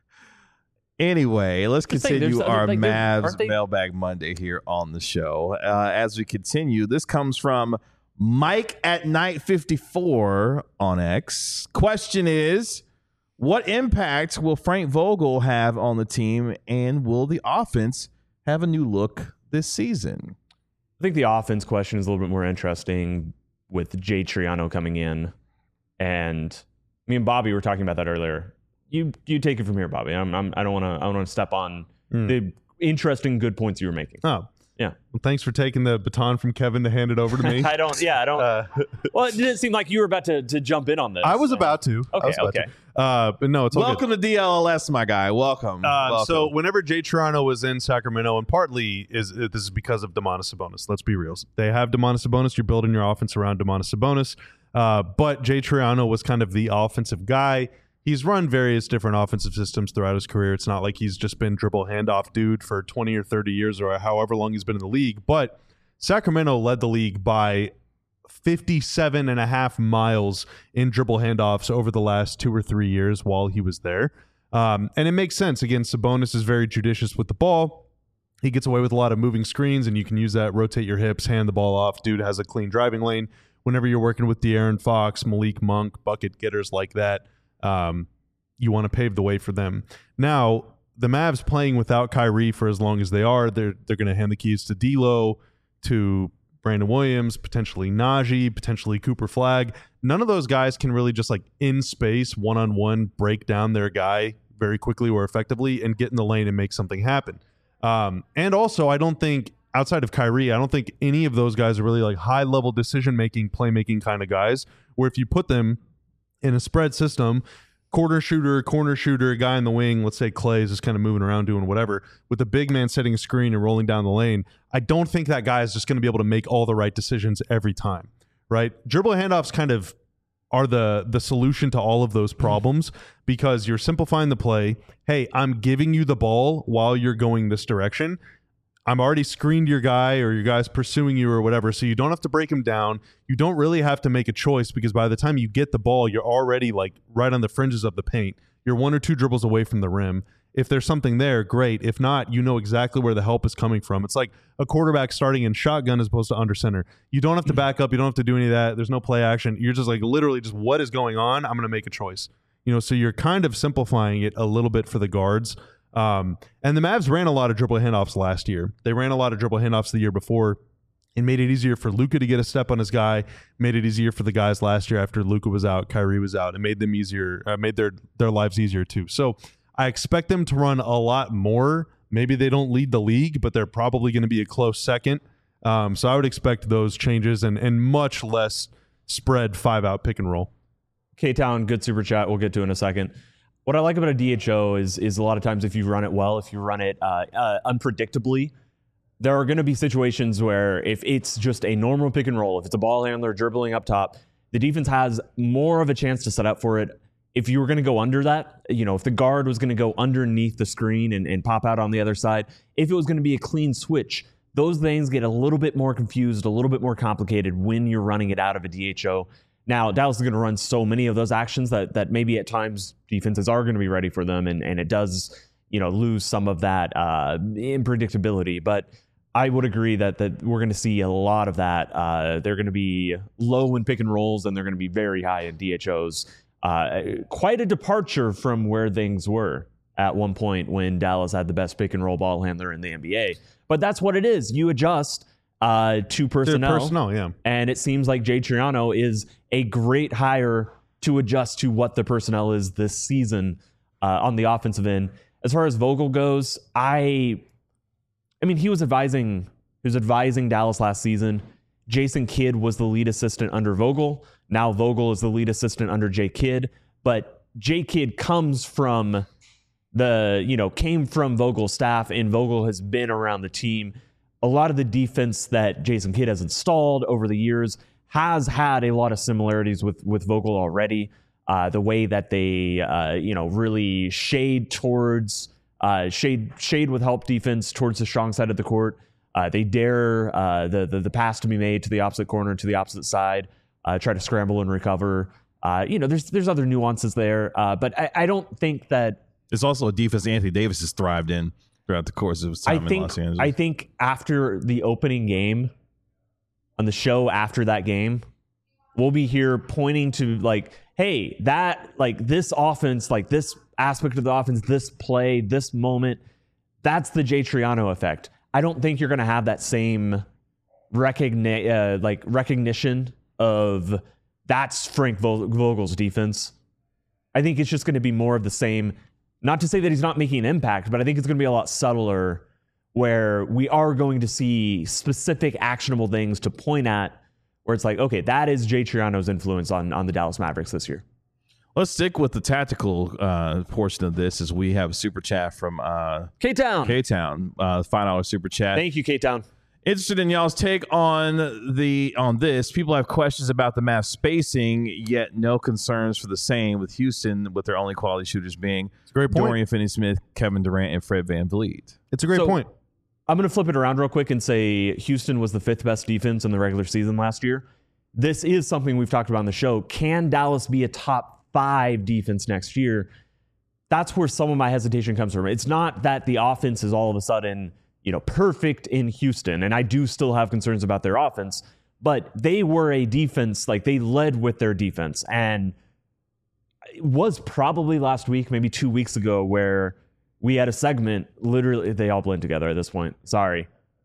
Anyway, let's Just saying, continue there's- our like, Mavs aren't they- Mailbag Monday here on the show. As we continue, this comes from Mike at Night 54 on X. Question is, what impact will Frank Vogel have on the team, and will the offense have a new look this season? I think the offense question is a little bit more interesting with Jay Triano coming in. And me and Bobby were talking about that earlier. You take it from here, Bobby. I don't want to step on the interesting good points you were making. Oh. Yeah. Well, thanks for taking the baton from Kevin to hand it over to me. I don't. Well, it didn't seem like you were about to jump in on this. I was about to. Okay. But no, it's all Welcome to DLLS, my guy. Welcome. Welcome. So whenever Jay Toronto was in Sacramento, and partly this is because of Domantas Sabonis. Let's be real. They have Domantas Sabonis. You're building your offense around Domantas Sabonis. But Jay Triano was kind of the offensive guy. He's run various different offensive systems throughout his career. It's not like he's just been dribble handoff dude for 20 or 30 years or however long he's been in the league. But Sacramento led the league by 57.5 miles in dribble handoffs over the last 2 or 3 years while he was there. And it makes sense. Again, Sabonis is very judicious with the ball. He gets away with a lot of moving screens, and you can use that, rotate your hips, hand the ball off. Dude has a clean driving lane. Whenever you're working with De'Aaron Fox, Malik Monk, bucket getters like that, you want to pave the way for them. Now, the Mavs playing without Kyrie for as long as they are, they're going to hand the keys to D'Lo, to Brandon Williams, potentially Najee, potentially Cooper Flagg. None of those guys can really just like in space, one-on-one, break down their guy very quickly or effectively and get in the lane and make something happen. And also, I don't think, outside of Kyrie, I don't think any of those guys are really like high-level decision-making, playmaking kind of guys, where if you put them in a spread system, corner shooter, guy in the wing, let's say Clay is just kind of moving around doing whatever, with the big man setting a screen and rolling down the lane, I don't think that guy is just going to be able to make all the right decisions every time, right? Dribble handoffs kind of are the solution to all of those problems because you're simplifying the play. Hey, I'm giving you the ball while you're going this direction. I'm already screened your guy or your guy's pursuing you or whatever, so you don't have to break him down. You don't really have to make a choice because by the time you get the ball, you're already like right on the fringes of the paint. You're 1 or 2 dribbles away from the rim. If there's something there, great. If not, you know exactly where the help is coming from. It's like a quarterback starting in shotgun as opposed to under center. You don't have to back up. You don't have to do any of that. There's no play action. You're just like literally just what is going on? I'm going to make a choice. So you're kind of simplifying it a little bit for the guards. And the Mavs ran a lot of dribble handoffs last year. They ran a lot of dribble handoffs the year before. It made it easier for Luka to get a step on his guy, made it easier for the guys last year after Luka was out, Kyrie was out. It made them easier, made their lives easier too. So I expect them to run a lot more. Maybe they don't lead the league, but they're probably going to be a close second. So I would expect those changes and much less spread 5-out pick and roll. K-Town, good super chat. We'll get to in a second. What I like about a DHO is a lot of times if you run it well, if you run it unpredictably, there are going to be situations where if it's just a normal pick and roll, if it's a ball handler dribbling up top, the defense has more of a chance to set up for it. If you were going to go under that, if the guard was going to go underneath the screen and pop out on the other side, if it was going to be a clean switch, those things get a little bit more confused, a little bit more complicated when you're running it out of a DHO. Now, Dallas is going to run so many of those actions that maybe at times defenses are going to be ready for them, and it does, lose some of that unpredictability. But I would agree that we're going to see a lot of that. They're going to be low in pick and rolls, and they're going to be very high in DHOs. Quite a departure from where things were at one point when Dallas had the best pick and roll ball handler in the NBA. But that's what it is. You adjust to personnel. Yeah. And it seems like Jay Triano is a great hire to adjust to what the personnel is this season on the offensive end. As far as Vogel goes, I mean, he was advising Dallas last season. Jason Kidd was the lead assistant under Vogel. Now Vogel is the lead assistant under Jay Kidd. But Jay Kidd comes from came from Vogel's staff, and Vogel has been around the team. A lot of the defense that Jason Kidd has installed over the years has had a lot of similarities with Vogel already. The way that they, really shade towards shade with help defense towards the strong side of the court. They dare the pass to be made to the opposite corner, to the opposite side, try to scramble and recover. There's other nuances there, but I don't think that it's also a defense Anthony Davis has thrived in throughout the course of his time in Los Angeles. I think after the opening game, on the show after that game, we'll be here pointing to hey, that this offense, this aspect of the offense, this play, this moment, that's the Jay Triano effect. I don't think you're going to have that same recognition of that's Frank Vogel's defense. I think it's just going to be more of the same. Not to say that he's not making an impact, but I think it's going to be a lot subtler where we are going to see specific actionable things to point at where it's okay, that is Jay Triano's influence on the Dallas Mavericks this year. Let's stick with the tactical portion of this as we have a super chat from K-Town. $5 super chat. Thank you, K-Town. Interested in y'all's take on this. People have questions about the Mavs spacing, yet no concerns for the same with Houston, with their only quality shooters being Dorian Finney-Smith, Kevin Durant, and Fred VanVleet. It's a great point. I'm going to flip it around real quick and say Houston was the 5th best defense in the regular season last year. This is something we've talked about on the show. Can Dallas be a top 5 defense next year? That's where some of my hesitation comes from. It's not that the offense is all of a sudden perfect in Houston, and I do still have concerns about their offense, but they were a defense, they led with their defense, and it was probably last week, maybe 2 weeks ago, where we had a segment, literally, they all blend together at this point, sorry,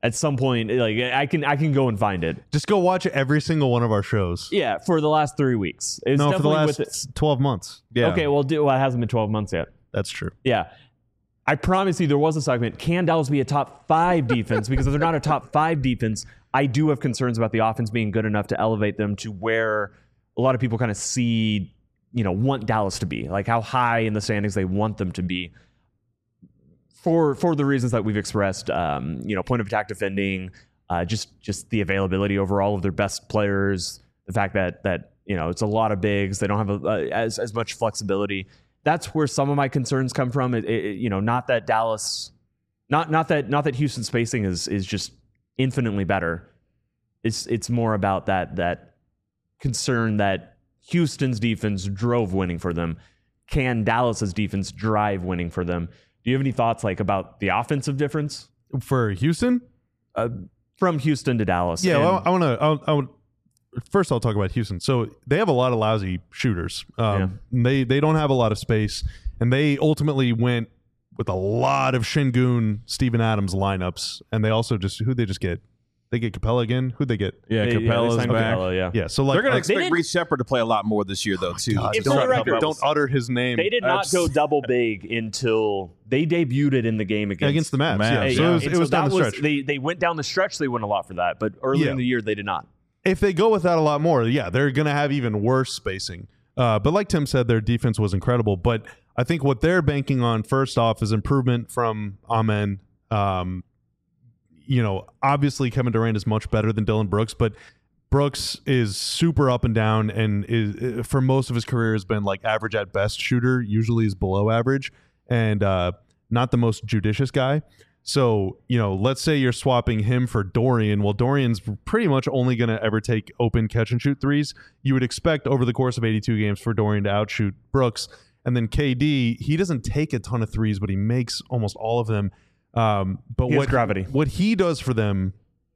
at some point, like I can go and find it. Just go watch every single one of our shows. Yeah, for the last 3 weeks. It was No, for the definitely last 12 months. Yeah. Okay, well, it hasn't been 12 months yet. That's true. Yeah. I promise you there was a segment. Can Dallas be a top 5 defense? Because if they're not a top 5 defense, I do have concerns about the offense being good enough to elevate them to where a lot of people kind of see, want Dallas to be. Like how high in the standings they want them to be. For the reasons that we've expressed, point of attack defending, just the availability overall of their best players, the fact that it's a lot of bigs, they don't have as much flexibility. That's where some of my concerns come from. Not that Dallas, not that Houston spacing is just infinitely better. It's more about that concern that Houston's defense drove winning for them. Can Dallas's defense drive winning for them? Do you have any thoughts about the offensive difference For Houston? from Houston to Dallas? Yeah, And- well, I want first I'll talk about Houston. So they have a lot of lousy shooters. They don't have a lot of space, and they ultimately went with a lot of Şengün, Steven Adams lineups, and they also who'd they just get? They get Capella again. Who'd they get? Yeah, they Capella's signed back. Capella, yeah. Yeah, so They're going to like, expect didn't- Reece Shepard to play a lot more this year, though, too. God, For the record, don't utter his name They did not go double big until they debuted it in the game against against the Mavs. Mavs, Yeah, so yeah. it was down the stretch. They went down the stretch. They went a lot for that, but early in the year they did not. If they go with that a lot more, yeah, they're going to have even worse spacing. But like Tim said, their defense was incredible. But I think what they're banking on first off is improvement from Amen. Obviously Kevin Durant is much better than Dylan Brooks, but Brooks is super up and down, and is for most of his career has been like average at best shooter. Usually is below average, and not the most judicious guy. So, let's say you're swapping him for Dorian. Well, Dorian's pretty much only going to ever take open catch and shoot threes. You would expect over the course of 82 games for Dorian to outshoot Brooks. And then KD, he doesn't take a ton of threes, but he makes almost all of them. But He has gravity. What he does for them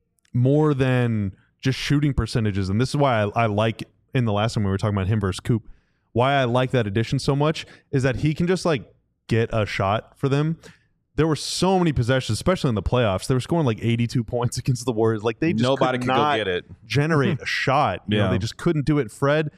more than just shooting percentages, and this is why I like, in the last time we were talking about him versus Coop, why I like that addition so much is that he can just get a shot for them. There were so many possessions, especially in the playoffs. They were scoring 82 points against the Warriors. They just Nobody could could go not get it. generate a shot. They just couldn't do it. Fred,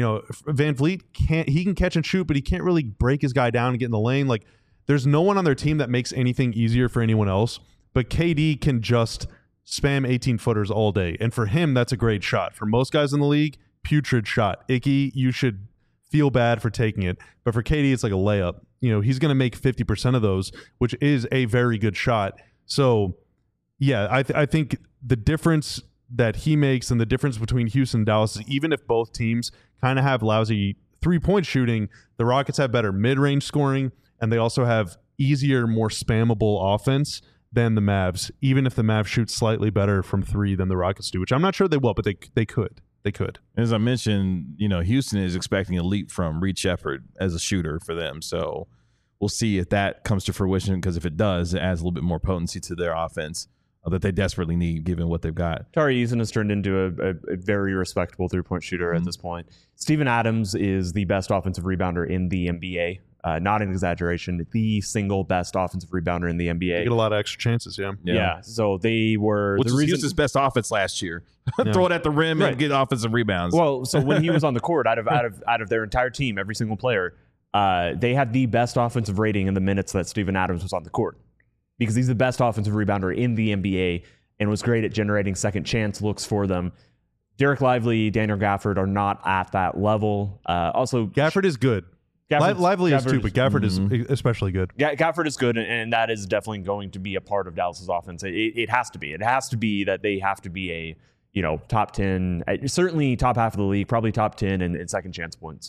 Van Vliet he can catch and shoot, but he can't really break his guy down and get in the lane. There's no one on their team that makes anything easier for anyone else. But KD can just spam 18-footers all day, and for him, that's a great shot. For most guys in the league, putrid shot. Icky, you should feel bad for taking it. But for KD, it's like a layup. He's going to make 50% of those, which is a very good shot. So, yeah, I think the difference that he makes and the difference between Houston and Dallas is even if both teams kind of have lousy three-point shooting, the Rockets have better mid-range scoring, and they also have easier, more spammable offense than the Mavs, even if the Mavs shoot slightly better from three than the Rockets do, which I'm not sure they will, but they could. They could. As I mentioned, Houston is expecting a leap from Reece Shepard as a shooter for them. So we'll see if that comes to fruition, because if it does, it adds a little bit more potency to their offense that they desperately need, given what they've got. Tari Eason has turned into a very respectable three-point shooter at this point. Steven Adams is the best offensive rebounder in the NBA. Not an exaggeration, the single best offensive rebounder in the NBA. They get a lot of extra chances, yeah. Yeah, so they were... Which the was reason, Houston's best offense last year. Throw it at the rim Right. and get offensive rebounds. Well, so when he was on the court, out of their entire team, every single player, they had the best offensive rating in the minutes that Steven Adams was on the court, because he's the best offensive rebounder in the NBA and was great at generating second chance looks for them. Derek Lively, Daniel Gafford are not at that level. Also, Gafford is good. Lively is too, but Gafford is especially good. Gafford is good, and that is definitely going to be a part of Dallas's offense. It has to be. It has to be that they have to be a top 10, certainly top half of the league, probably top 10 in second chance points.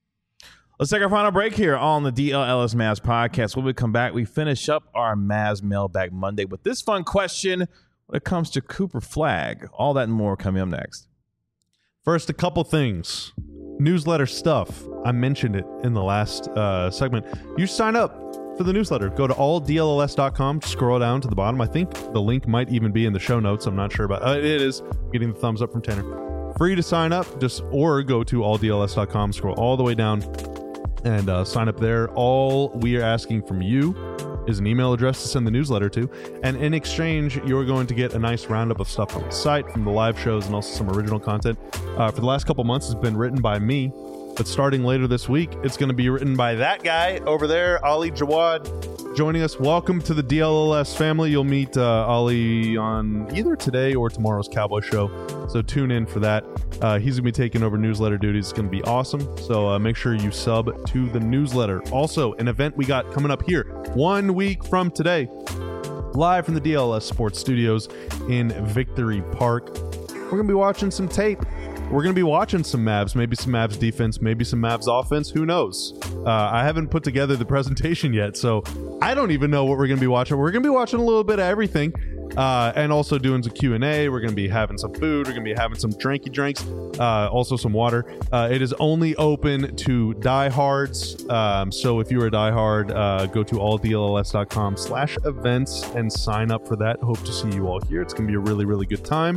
Let's take our final break here on the DLLS Mavs podcast. When we come back, we finish up our Mavs Mailbag Monday with this fun question when it comes to Cooper Flag. All that and more coming up next. First, a couple things. Newsletter stuff. I mentioned it in the last segment. You sign up for the newsletter. Go to alldlls.com. Scroll down to the bottom. I think the link might even be in the show notes. I'm not sure about it. It is. Getting the thumbs up from Tanner. Free to sign up. Or go to alldls.com. Scroll all the way down and sign up there. All we are asking from you is an email address to send the newsletter to. And in exchange, you're going to get a nice roundup of stuff from the site, from the live shows, and also some original content. For the last couple months, it's been written by me. But starting later this week, it's going to be written by that guy over there, Ali Jawad, joining us. Welcome to the DLLS family. You'll meet Ali on either today or tomorrow's Cowboy Show. So tune in for that. He's going to be taking over newsletter duties. It's going to be awesome. So make sure you sub to the newsletter. Also, an event we got coming up here 1 week from today, live from the DLS Sports Studios in Victory Park. We're going to be watching some tape. We're going to be watching some Mavs, maybe some Mavs defense, maybe some Mavs offense. Who knows? I haven't put together the presentation yet, so I don't even know what we're going to be watching. We're going to be watching a little bit of everything, and also doing some Q&A. We're going to be having some food. We're going to be having some drinky drinks, also some water. It is only open to diehards, so if you're a diehard, go to alldlls.com/events and sign up for that. Hope to see you all here. It's going to be a really, really good time.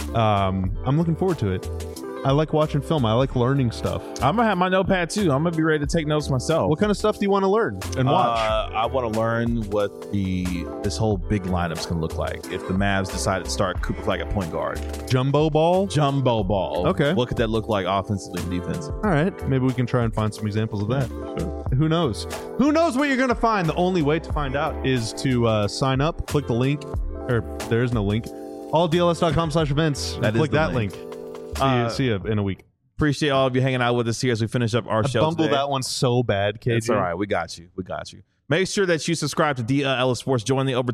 I'm looking forward to it. I like watching film. I like learning stuff. I'm gonna have my notepad too. I'm gonna be ready to take notes myself. What kind of stuff do you want to learn and watch? I want to learn what this whole big lineup's gonna look like if the Mavs decide to start Cooper Flag at point guard. Jumbo ball? Jumbo ball. Okay. What could that look like offensively and defense? All right. Maybe we can try and find some examples of that. Sure. Who knows? Who knows what you're going to find? The only way to find out is to sign up, click the link, or there is no link, alldls.com/events. Click that link. See you in a week. Appreciate all of you hanging out with us here as we finish up our show. I bumbled today. that one so bad, KJ. It's all right. We got you. Make sure that you subscribe to DLS Sports. Join the over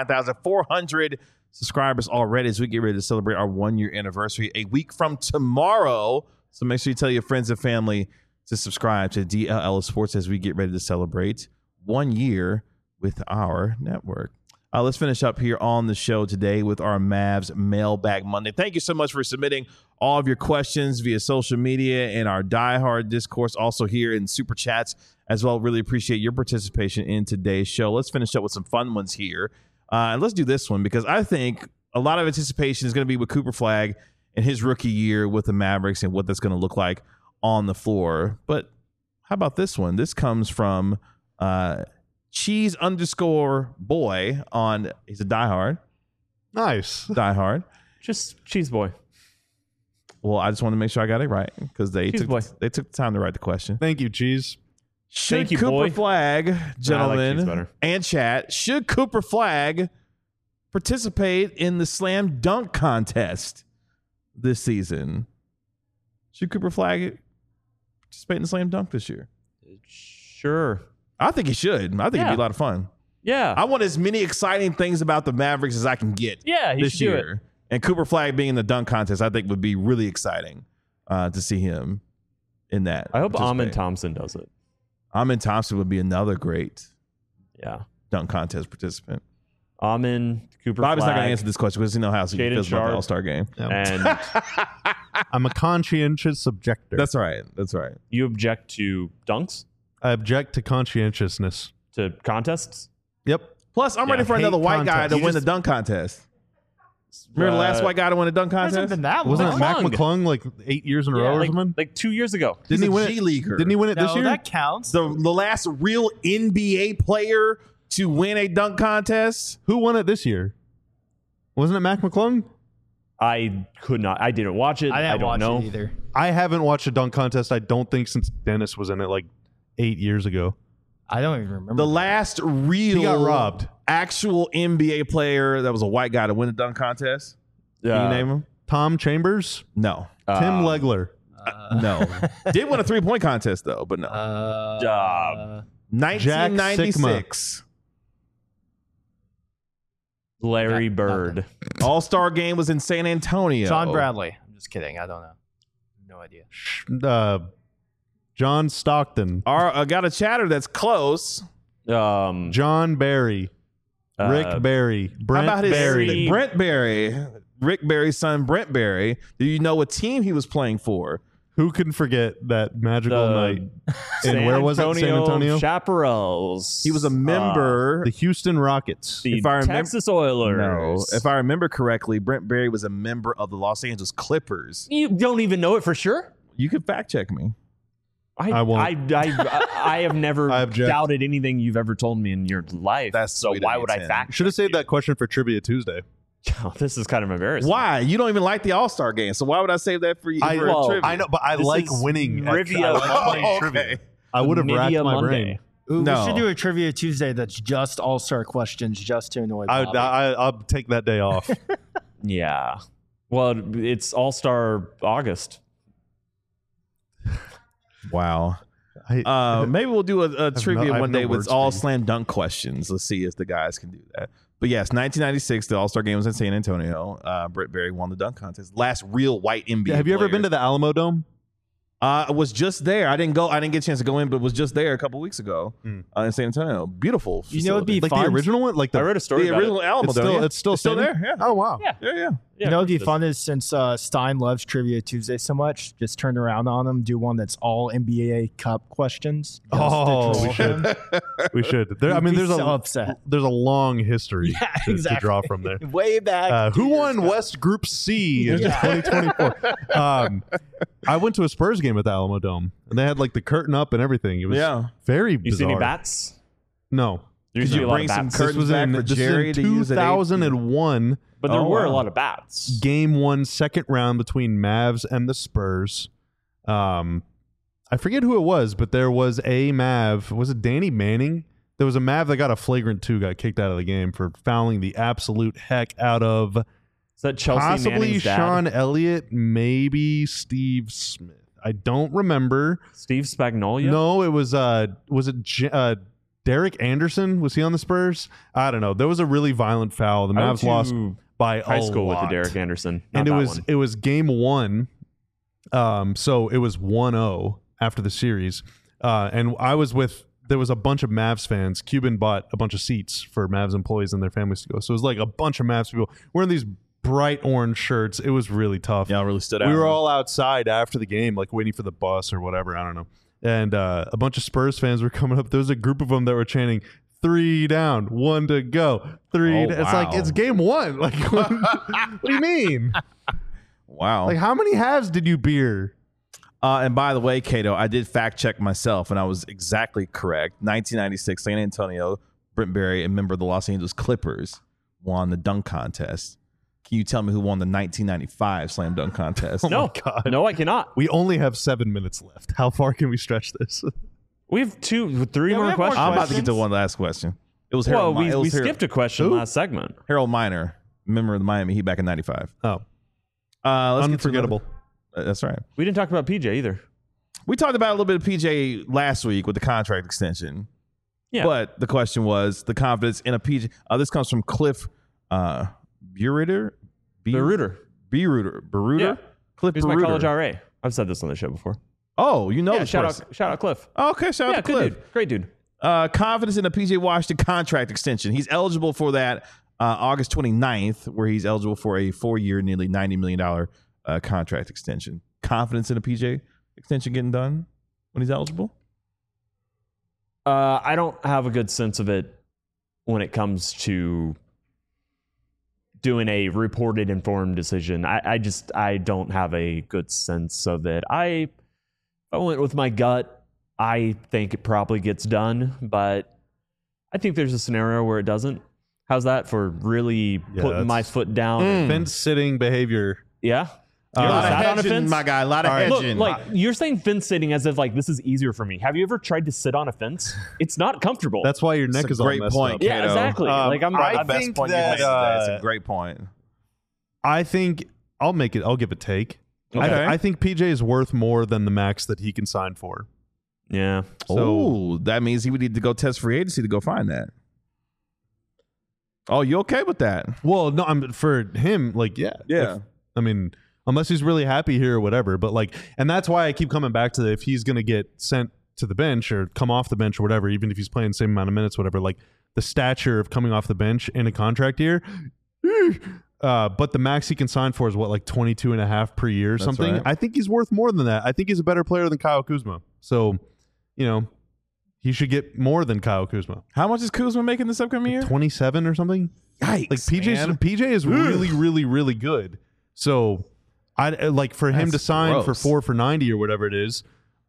29,400 subscribers already as we get ready to celebrate our 1-year anniversary a week from tomorrow. So make sure you tell your friends and family to subscribe to DLS Sports as we get ready to celebrate 1 year with our network. Let's finish up here on the show today with our Mavs Mailbag Monday. Thank you so much for submitting all of your questions via social media and our diehard discourse, also here in Super Chats as well. Really appreciate your participation in today's show. Let's finish up with some fun ones here. And let's do this one because I think a lot of anticipation is going to be with Cooper Flag and his rookie year with the Mavericks and what that's going to look like on the floor. But how about this one? This comes from Cheese_boy on, he's a diehard. Nice. Diehard. Just Cheese Boy. Well, I just want to make sure I got it right because they took the time to write the question. Thank you, Cheese. Should Cooper Flag, gentlemen, like and chat, should Cooper Flag participate in the slam dunk contest this season? Should Cooper Flag participate in the slam dunk this year? Sure. I think he should. I think it'd be a lot of fun. Yeah. I want as many exciting things about the Mavericks as I can get this year. And Cooper Flag being in the dunk contest, I think would be really exciting to see him in that. I hope Amin Thompson does it. Amin Thompson would be another great dunk contest participant. Amin, Cooper Bobby's Flag, not going to answer this question because he knows how he feels about the All-Star game. And I'm a conscientious objector. That's right. You object to dunks? I object to conscientiousness. To contests? Yep. Plus, I'm ready for another white guy to win the dunk contest. Remember the last white guy to win a dunk contest? Hasn't been that Wasn't long. it Mac McClung like 8 years in a row or something? Like 2 years ago. Didn't he win it? G-leaguer. Didn't he win it this No, year? that counts. The last real NBA player to win a dunk contest? Who won it this year? Wasn't it Mac McClung? I could not. I didn't watch it. I don't know. It either. I haven't watched a dunk contest, I don't think, since Dennis was in it like 8 years ago. I don't even remember. The last real He got robbed. Actual NBA player that was a white guy to win a dunk contest? Can you name him? Tom Chambers? No. Tim Legler? No. Did win a three-point contest, though, but no. 1996. Larry Bird. All-Star game was in San Antonio. John Bradley. I'm just kidding. I don't know. No idea. John Stockton. I got a chatter that's close. John Barry. Rick Barry. Brent How about his Barry. Brent Barry. Rick Barry's son, Brent Barry. Do you know what team he was playing for? Who can forget that magical night? And where was it? San Antonio? Chaparrals. He was a member. The Houston Rockets. The if I remember- Texas Oilers. No. If I remember correctly, Brent Barry was a member of the Los Angeles Clippers. You don't even know it for sure? You can fact check me. I won't. I have never I object. doubted anything you've ever told me in your life. That's so sweet of why you, would I Tim. fact? Should have saved that question for Trivia Tuesday. Oh, this is kind of embarrassing. Why? You don't even like the All-Star game, so why would I save that for you? for well, trivia? I know, but I This like is winning. Trivia I like Monday. playing trivia. I would have racked Trivia my Monday. brain. Ooh, No. We should do a Trivia Tuesday that's just all-star questions just to annoy Bobby. I'll take that day off. Yeah. Well, it's All Star August. Wow. I, Maybe we'll do a trivia I have one no day with words all for you. slam dunk questions. Let's see if the guys can do that. But yes, 1996, the All-Star game was in San Antonio. Britt Berry won the dunk contest. Last real white NBA have you ever player. been to the Alamo Dome? I was just there. I didn't go. I didn't get a chance to go in, but was just there a couple weeks ago in San Antonio. Beautiful. You know, it'd be Like fun. the original one? Like I read a story the about original Alamo it's Dome. still, Yeah. it's still still standing? there. Yeah. Oh, wow. Yeah. Yeah. You know, what'd be it is. fun is since Stein loves Trivia Tuesday so much, just turn around on him, do one that's all NBA Cup questions. just to Oh, troll we should. him. We should. There, I He'd mean, be there's so a upset. there's a long history Yeah, to exactly. draw from there. Way back. Who 2 years won ago. West Group C in Yeah. 2024? I went to a Spurs game at the Alamo Dome, and they had like the curtain up and everything. It was Yeah. very You bizarre. see any bats? No. There's you usually a lot bring of some bats. cur- This was back in, for this was Jerry in to use at 2001. But there Oh, were a wow. lot of bats. Game 1, second round between Mavs and the Spurs. I forget who it was, but there was a Mav. Was it Danny Manning? There was a Mav that got a flagrant 2, got kicked out of the game for fouling the absolute heck out of Is that Chelsea possibly Manning's dad? Sean Elliott, maybe Steve Smith. I don't remember. Steve Spagnuolo? No, it was Derek Anderson? Was he on the Spurs? I don't know. There was a really violent foul. The I went Mavs lost to by high a school with lot. the Derek Anderson. And Not it that was one. it was game 1. So it was 1-0 after the series. And I was with there was a bunch of Mavs fans. Cuban bought a bunch of seats for Mavs employees and their families to go. So it was like a bunch of Mavs people wearing these bright orange shirts. It was really tough. Y'all really stood out. We were all outside after the game, like waiting for the bus or whatever. I don't know. And a bunch of Spurs fans were coming up. There was a group of them that were chanting, 3 down, 1 to go, 3. Oh, It's like, wow. it's game 1. Like, what do you mean? Wow. Like, how many halves did you beer? And by the way, Cato, I did fact check myself, and I was exactly correct. 1996, San Antonio, Britt Berry, a member of the Los Angeles Clippers, won the dunk contest. Can you tell me who won the 1995 slam dunk contest? No, God. no, I cannot. We only have 7 minutes left. How far can we stretch this? We have 3 Yeah, more we have more questions. I'm about to get to questions? one last question. It was Well, Harold. we skipped a question Who? last segment. Harold Miner, member of the Miami Heat back in '95. Oh, Let's get to unforgettable. another- that's right. We didn't talk about PJ either. We talked about a little bit of PJ last week with the contract extension. Yeah. But the question was the confidence in a PJ. This comes from Cliff Beruter. Beruter. Beruter. Yeah. Cliff He's my Beruter. college RA. I've said this on the show before. Oh, you know Yeah, this shout person. out Cliff. Okay, shout Yeah, out to good Cliff. dude. Great dude. Confidence in a PJ Washington contract extension. He's eligible for that August 29th, where he's eligible for a 4-year, nearly $90 million contract extension. Confidence in a PJ extension getting done when he's eligible? I don't have a good sense of it when it comes to doing a reported informed decision. I don't have a good sense of it. I went with my gut. I think it probably gets done, but I think there's a scenario where it doesn't. How's that for really putting my that's- foot down? Fence sitting behavior. Yeah. A You ever lot of sat on a hedging, fence? my guy. A lot of right. Look, hedging. like you're saying fence sitting as if like this is easier for me. Have you ever tried to sit on a fence? It's not comfortable. That's why your neck That's a is all great messed point, up. yeah, Cato. exactly. Like I'm I the best think point that, you made today. It's a great point. I think I'll give a take. Okay. I think PJ is worth more than the max that he can sign for. yeah. So that means he would need to go test free agency to go find that. Oh, you okay with that? Well, no, I'm for him. Like, yeah, Yeah. I mean, unless he's really happy here or whatever. But like, and that's why I keep coming back to if he's going to get sent to the bench or come off the bench or whatever, even if he's playing the same amount of minutes, whatever. Like the stature of coming off the bench in a contract year. But the max he can sign for is what, like 22.5 per year or That's something. right. I think he's worth more than that. I think he's a better player than Kyle Kuzma. So, you know, he should get more than Kyle Kuzma. How much is Kuzma making this upcoming year? 27 or something. Yikes, Like man. PJ is really, really, really good. So I like for him That's to sign gross. for 4 for $90 or whatever it is.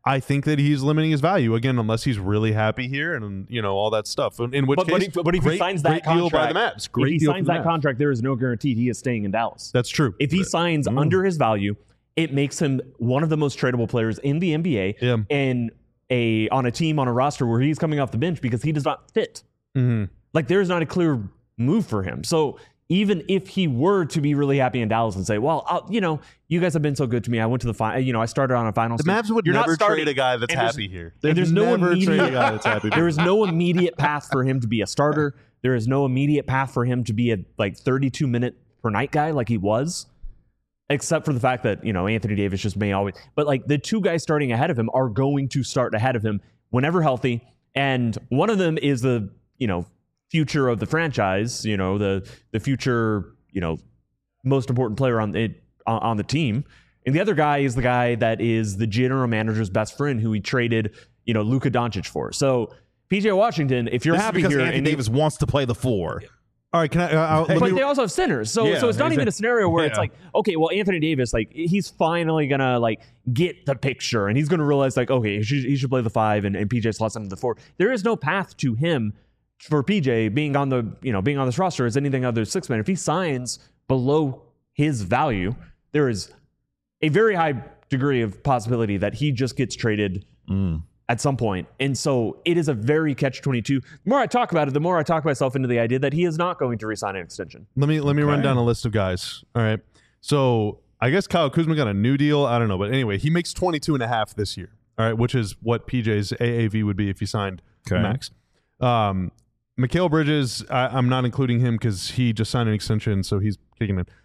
I think that he's limiting his value again, unless he's really happy here and all that stuff. In which case, but if he signs that great deal by contract, the Mavs. Great if he deal signs for the that Mavs. contract, there is no guarantee he is staying in Dallas. That's true. If he signs under his value, it makes him one of the most tradable players in the NBA Yeah. and on a team, on a roster where he's coming off the bench because he does not fit. Like there's not a clear move for him. So even if he were to be really happy in Dallas and say, well, you guys have been so good to me. I went to the final, I started on a finals. The Mavs would You're never not starting. trade a guy that's And there's- happy here. and there's no never trade a immediate- guy that's happy. There is no immediate path for him to be a starter. There is no immediate path for him to be a 32-minute per night guy like he was, except for the fact that Anthony Davis just may always. But like the two guys starting ahead of him are going to start ahead of him whenever healthy, and one of them is the future of the franchise. The future most important player on the team. And the other guy is the guy that is the general manager's best friend who he traded, Luka Doncic for. So PJ Washington, if you're This is happy because here, Anthony Davis wants to play the 4. All right, can I? let but me- they also have centers, so Yeah, it's not even a scenario where it's yeah. like, okay, well, Anthony Davis, he's finally gonna get the picture, and he's gonna realize okay, he should play the 5, and PJ slots into the 4. There is no path to him for PJ being on this roster as anything other than 6 man. If he signs below his value, there is a very high degree of possibility that he just gets traded at some point. And so it is a very catch-22. The more I talk about it, the more I talk myself into the idea that he is not going to re-sign an extension. Let me run down a list of guys. All right. So I guess Kyle Kuzma got a new deal. I don't know. But anyway, he makes 22.5 this year. All right. Which is what PJ's AAV would be if he signed Okay. max. Mikal Bridges, I'm not including him because he just signed an extension, so he's kicking in.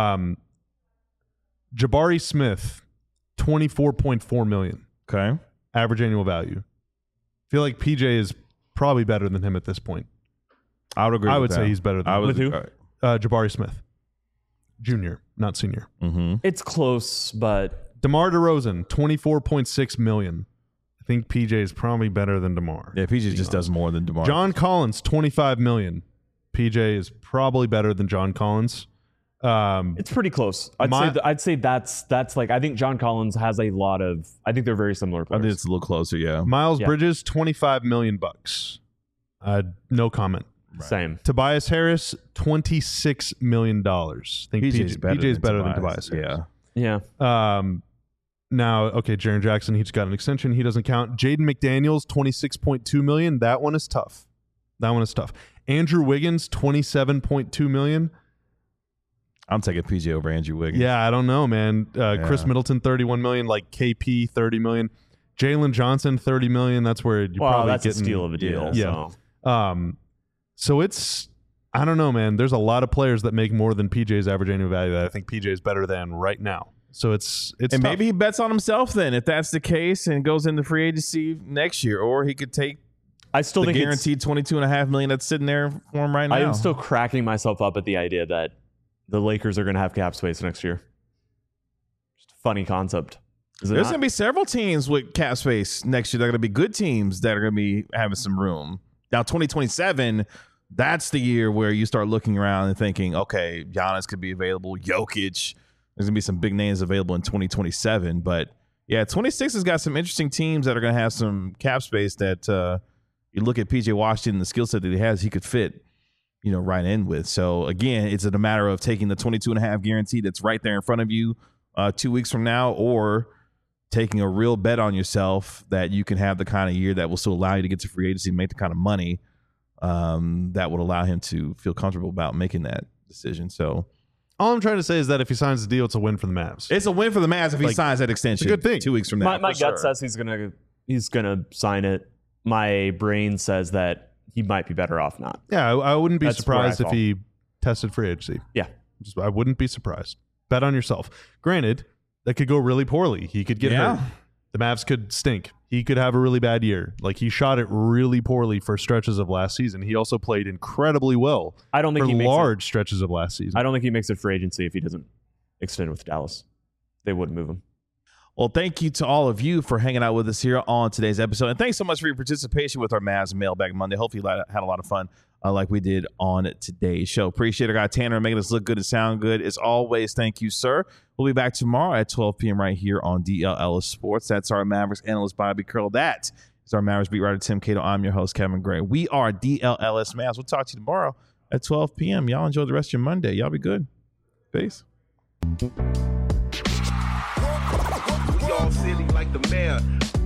Jabari Smith, $24.4 million Okay. average annual value. I feel like PJ is probably better than him at this point. I would agree. I with would that. say he's better than I him. would, With who? Jabari Smith, junior, not senior. It's close, but DeMar DeRozan, $24.6 million. I think PJ is probably better than DeMar. Yeah, PJ just does more than DeMar. John Collins, $25 million. PJ is probably better than John Collins. it's pretty close. I'd say that's I think John Collins has a lot of. I think they're very similar I think players. it's a little closer. Yeah. Miles Yeah. Bridges, $25 million. No comment. Same. Tobias Harris, $26 million. I think PJ's better than Tobias Harris. Yeah. Now, okay, Jaren Jackson, he just got an extension. He doesn't count. Jaden McDaniels, $26.2 million. That one is tough. Andrew Wiggins, $27.2 million. I'm taking PJ over Andrew Wiggins. Yeah, I don't know, man. Chris Middleton, $31 million. Like KP, $30 million. Jalen Johnson, $30 million. That's where you're probably that's getting a steal of a deal. Yeah. So. So it's, I don't know, man. There's a lot of players that make more than PJ's average annual value that I think PJ is better than right now. So it's And tough. maybe he bets on himself then, if that's the case, and goes into free agency next year, or he could take I still the think guaranteed $22.5 million that's sitting there for him right now. I am still cracking myself up at the idea that the Lakers are going to have cap space next year. Just a funny concept. Is it There's not? going to be several teams with cap space next year. They're going to be good teams that are going to be having some room. Now, 2027, that's the year where you start looking around and thinking, okay, Giannis could be available, Jokic. There's going to be some big names available in 2027. But yeah, 26 has got some interesting teams that are going to have some cap space that you look at PJ Washington, the skill set that he has, he could fit, right in with. So again, it's a matter of taking the 22.5 guarantee that's right there in front of you 2 weeks from now, or taking a real bet on yourself that you can have the kind of year that will still allow you to get to free agency, make the kind of money that would allow him to feel comfortable about making that decision. So all I'm trying to say is that if he signs the deal, it's a win for the Mavs. it's a win for the Mavs if he Like, signs that extension. it's a good thing. 2 weeks from now. My for gut sure. says he's gonna sign it. My brain says that he might be better off not. Yeah, I wouldn't be That's surprised where I if he tested free agency. Yeah. I wouldn't be surprised. Bet on yourself. Granted, that could go really poorly. He could get hurt. The Mavs could stink. He could have a really bad year. Like, he shot it really poorly for stretches of last season. He also played incredibly well I don't think for he makes large stretches of last season. I don't think he makes it free agency if he doesn't extend with Dallas. They wouldn't move him. Well, thank you to all of you for hanging out with us here on today's episode. And thanks so much for your participation with our Mavs Mailbag Monday. Hopefully you had a lot of fun like we did on today's show. Appreciate our guy Tanner making us look good and sound good. As always, thank you, sir. We'll be back tomorrow at 12 p.m. right here on DL Ellis Sports. That's our Mavericks analyst, Bobby Curl. That is our Mavericks beat writer, Tim Cato. I'm your host, Kevin Gray. We are DL Ellis Mavs. We'll talk to you tomorrow at 12 p.m. Y'all enjoy the rest of your Monday. Y'all be good. Peace. We all silly like the mayor.